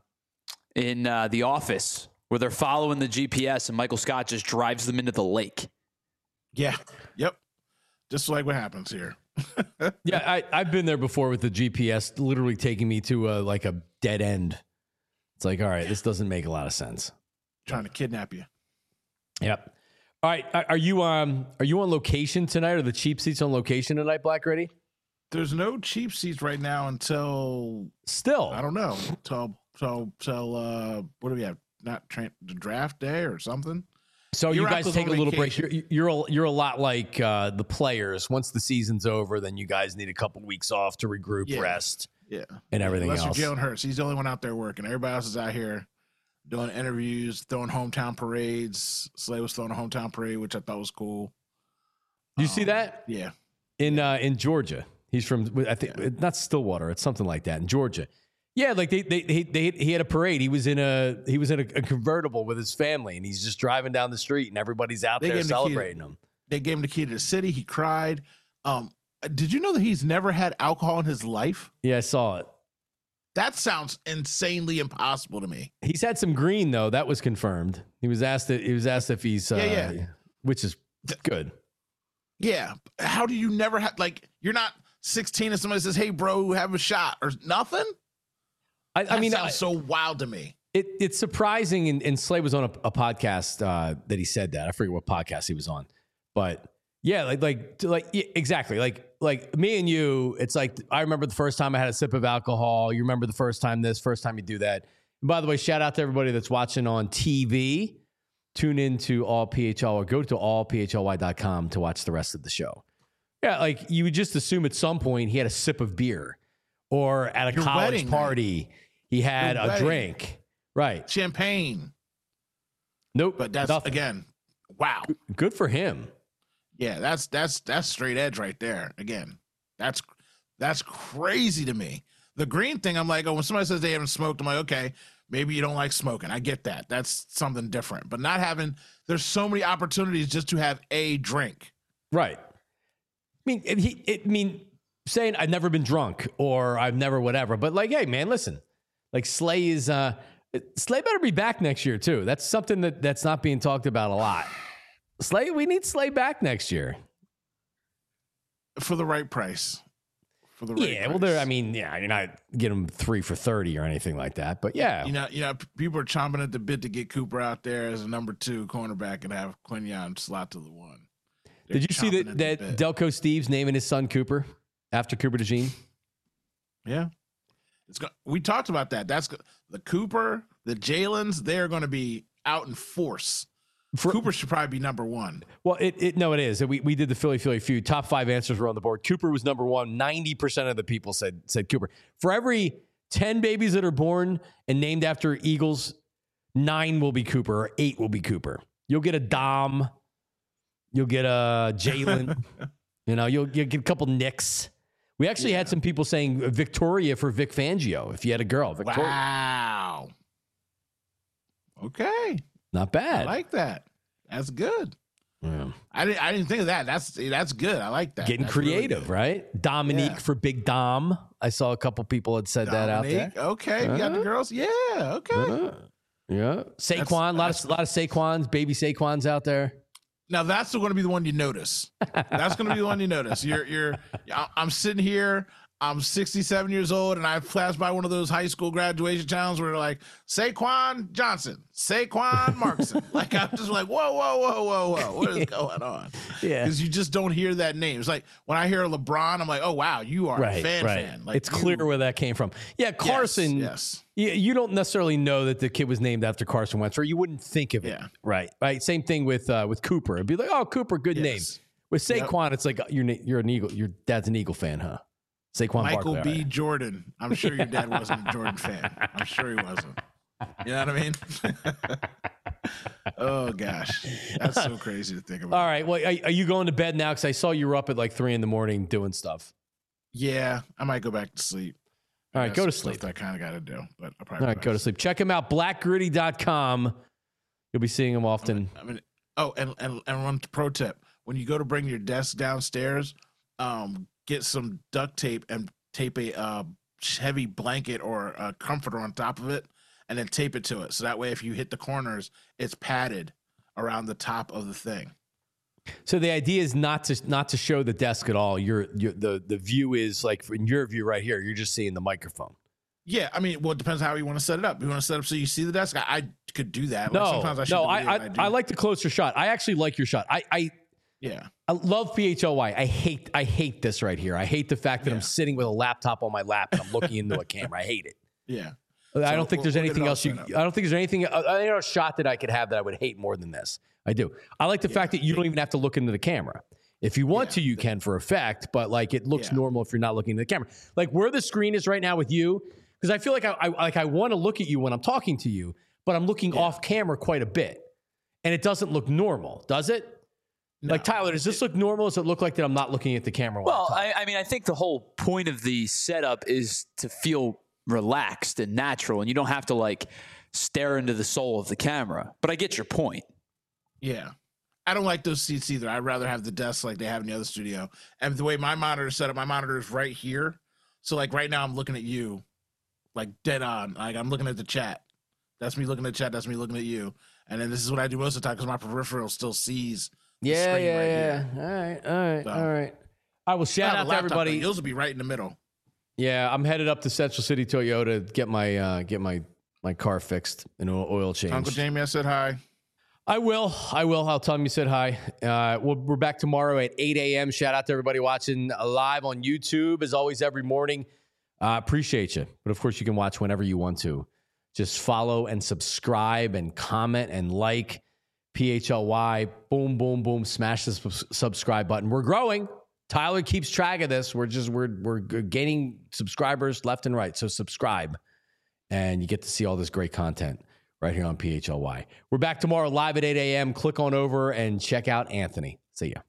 S3: The Office where they're following the GPS and Michael Scott just drives them into the lake.
S2: Yeah. Yep. Just like what happens here.
S1: Yeah, I've been there before with the GPS literally taking me to like a dead end. It's like, all right, this doesn't make a lot of sense.
S2: Trying to kidnap you.
S1: Yep. All right, are you on location tonight? Are the cheap seats on location tonight, Black Ready?
S2: There's no cheap seats right now until I don't know. Till what do we have? The draft day or something?
S1: So you guys take a little break. You're a lot like the players. Once the season's over, then you guys need a couple weeks off to regroup, rest, and everything else.
S2: Unless you're Jalen Hurts, he's the only one out there working. Everybody else is out here doing interviews, throwing hometown parades. Slay was throwing a hometown parade, which I thought was cool.
S1: Do you see that?
S2: Yeah.
S1: In Georgia, he's from not Stillwater. It's something like that in Georgia. Yeah, like he had a parade. He was in a convertible with his family, and he's just driving down the street, and everybody's out there celebrating him.
S2: They gave him the key to the city. He cried. Did you know that he's never had alcohol in his life?
S1: Yeah, I saw it.
S2: That sounds insanely impossible to me.
S1: He's had some green though. That was confirmed. He was asked if he's which is good.
S2: Yeah. How do you never have, like, you're not 16 and somebody says, "Hey, bro, have a shot," or nothing? I mean, sounds so wild to me.
S1: It's surprising, and Slay was on a podcast that he said that. I forget what podcast he was on, but yeah, exactly. Like me and you, it's like, I remember the first time I had a sip of alcohol. You remember the first time first time you do that. And by the way, shout out to everybody that's watching on TV. Tune in to All PHL or go to allphly.com to watch the rest of the show. Yeah, like you would just assume at some point he had a sip of beer, or at a college party he had a drink. Right.
S2: Champagne.
S1: Nope.
S2: But that's
S1: nothing.
S2: Again, wow.
S1: Good for him.
S2: Yeah, that's straight edge right there. Again, that's crazy to me. The green thing, I'm like, when somebody says they haven't smoked, I'm like, okay, maybe you don't like smoking. I get that. That's something different. But not having, there's so many opportunities just to have a drink.
S1: Right. I mean, saying I've never been drunk or I've never whatever, but like, hey man, listen, like Slay better be back next year too. That's something that's not being talked about a lot. Slay, we need Slay back next year
S2: for the right price.
S1: Well, you're not getting him 3 for $30 or anything like that, but yeah,
S2: you know, people are chomping at the bit to get Cooper out there as a number 2 cornerback and have Quinyon slot to the 1.
S1: Did you see that Delco Steve's naming his son Cooper after Cooper DeJean?
S2: Yeah, we talked about that. That's the Cooper, the Jalen's. They're going to be out in force. Cooper should probably be number 1.
S1: Well, it is. We did the Philly feud. Top 5 answers were on the board. Cooper was number 1. 90% of the people said Cooper. For every 10 babies that are born and named after Eagles, 9 will be Cooper or 8 will be Cooper. You'll get a Dom. You'll get a Jalen. You'll get a couple Nicks. We actually had some people saying Victoria for Vic Fangio if you had a girl. Victoria.
S2: Wow. Okay.
S1: Not bad.
S2: I like that. That's good.
S1: Yeah.
S2: I didn't think of that. That's good. I like that.
S1: Getting
S2: That's really
S1: creative,
S2: good.
S1: right? Dominique
S2: Yeah.
S1: for Big Dom. I saw a couple people had said that out there.
S2: Dominique, okay, you got the girls. Yeah, okay.
S1: Yeah. Saquon, a lot of Saquons, baby Saquons out there.
S2: Now that's going to be the one you notice. That's going to be the one you notice. I'm sitting here. I'm 67 years old, and I flashed by one of those high school graduation channels where they're like, Saquon Johnson, Saquon Markson. Like, I'm just like, whoa. What is going on?
S1: Yeah.
S2: Because you just don't hear that name. It's like when I hear LeBron, I'm like, oh, wow, you are a fan. Like,
S1: it's clear where that came from. Yeah, Carson.
S2: Yes.
S1: You don't necessarily know that the kid was named after Carson Wentz, or you wouldn't think of it.
S2: Yeah.
S1: Right. Same thing with Cooper. It'd be like, oh, Cooper, good name. With Saquon, it's like you're an Eagle. Your dad's an Eagle fan, huh? Saquon
S2: Michael
S1: Barkley,
S2: B.
S1: right.
S2: Jordan. I'm sure your dad wasn't a Jordan fan. I'm sure he wasn't. You know what I mean? Oh, gosh. That's so crazy to think about.
S1: All right. Well, are you going to bed now? Because I saw you were up at like 3 a.m. doing stuff.
S2: Yeah, I might go back to sleep.
S1: All right, go to
S2: Stuff
S1: sleep.
S2: that I kind of got to do. But I'll probably
S1: All right, go to sleep. Check him out, blackgritty.com. You'll be seeing him often.
S2: And one pro tip. When you go to bring your desk downstairs, get some duct tape and tape a heavy blanket or a comforter on top of it, and then tape it to it. So that way, if you hit the corners, it's padded around the top of the thing.
S1: So the idea is not to show the desk at all. The view is like in your view right here. You're just seeing the microphone.
S2: Yeah, I mean, well, it depends how you want to set it up. You want to set it up so you see the desk. I could do that.
S1: No,
S2: like sometimes I shoot the video and
S1: I like the closer shot. I actually like your shot. I love PHLY. I hate this right here. I hate the fact that I'm sitting with a laptop on my lap and I'm looking into a camera. I hate it.
S2: Yeah.
S1: I don't think there's anything else I don't think there's anything a shot that I could have that I would hate more than this. I do. I like the fact that you don't even have to look into the camera. If you want to, you can for effect, but like it looks normal if you're not looking into the camera. Like where the screen is right now with you, because I feel like I want to look at you when I'm talking to you, but I'm looking off camera quite a bit. And it doesn't look normal, does it? No. Like, Tyler, does this look normal? Does it look like that I'm not looking at the camera?
S3: Well, I mean, I think the whole point of the setup is to feel relaxed and natural, and you don't have to, like, stare into the soul of the camera. But I get your point.
S2: Yeah. I don't like those seats either. I'd rather have the desk like they have in the other studio. And the way my monitor is set up, my monitor is right here. So, like, right now I'm looking at you, like, dead on. Like, I'm looking at the chat. That's me looking at the chat. That's me looking at you. And then this is what I do most of the time because my peripheral still sees
S1: Yeah. All right. I will shout out to everybody.
S2: Yours will be right in the middle.
S1: Yeah, I'm headed up to Central City Toyota to get my car fixed and oil change.
S2: Uncle Jamie, I said hi.
S1: I will. I'll tell him you said hi. We're back tomorrow at 8 a.m. Shout out to everybody watching live on YouTube, as always, every morning. Appreciate you. But, of course, you can watch whenever you want to. Just follow and subscribe and comment and like PHLY. Boom, boom, boom. Smash the subscribe button. We're growing. Tyler keeps track of this. We're gaining subscribers left and right. So subscribe, and you get to see all this great content right here on PHLY. We're back tomorrow live at 8 a.m. Click on over and check out Anthony. See ya.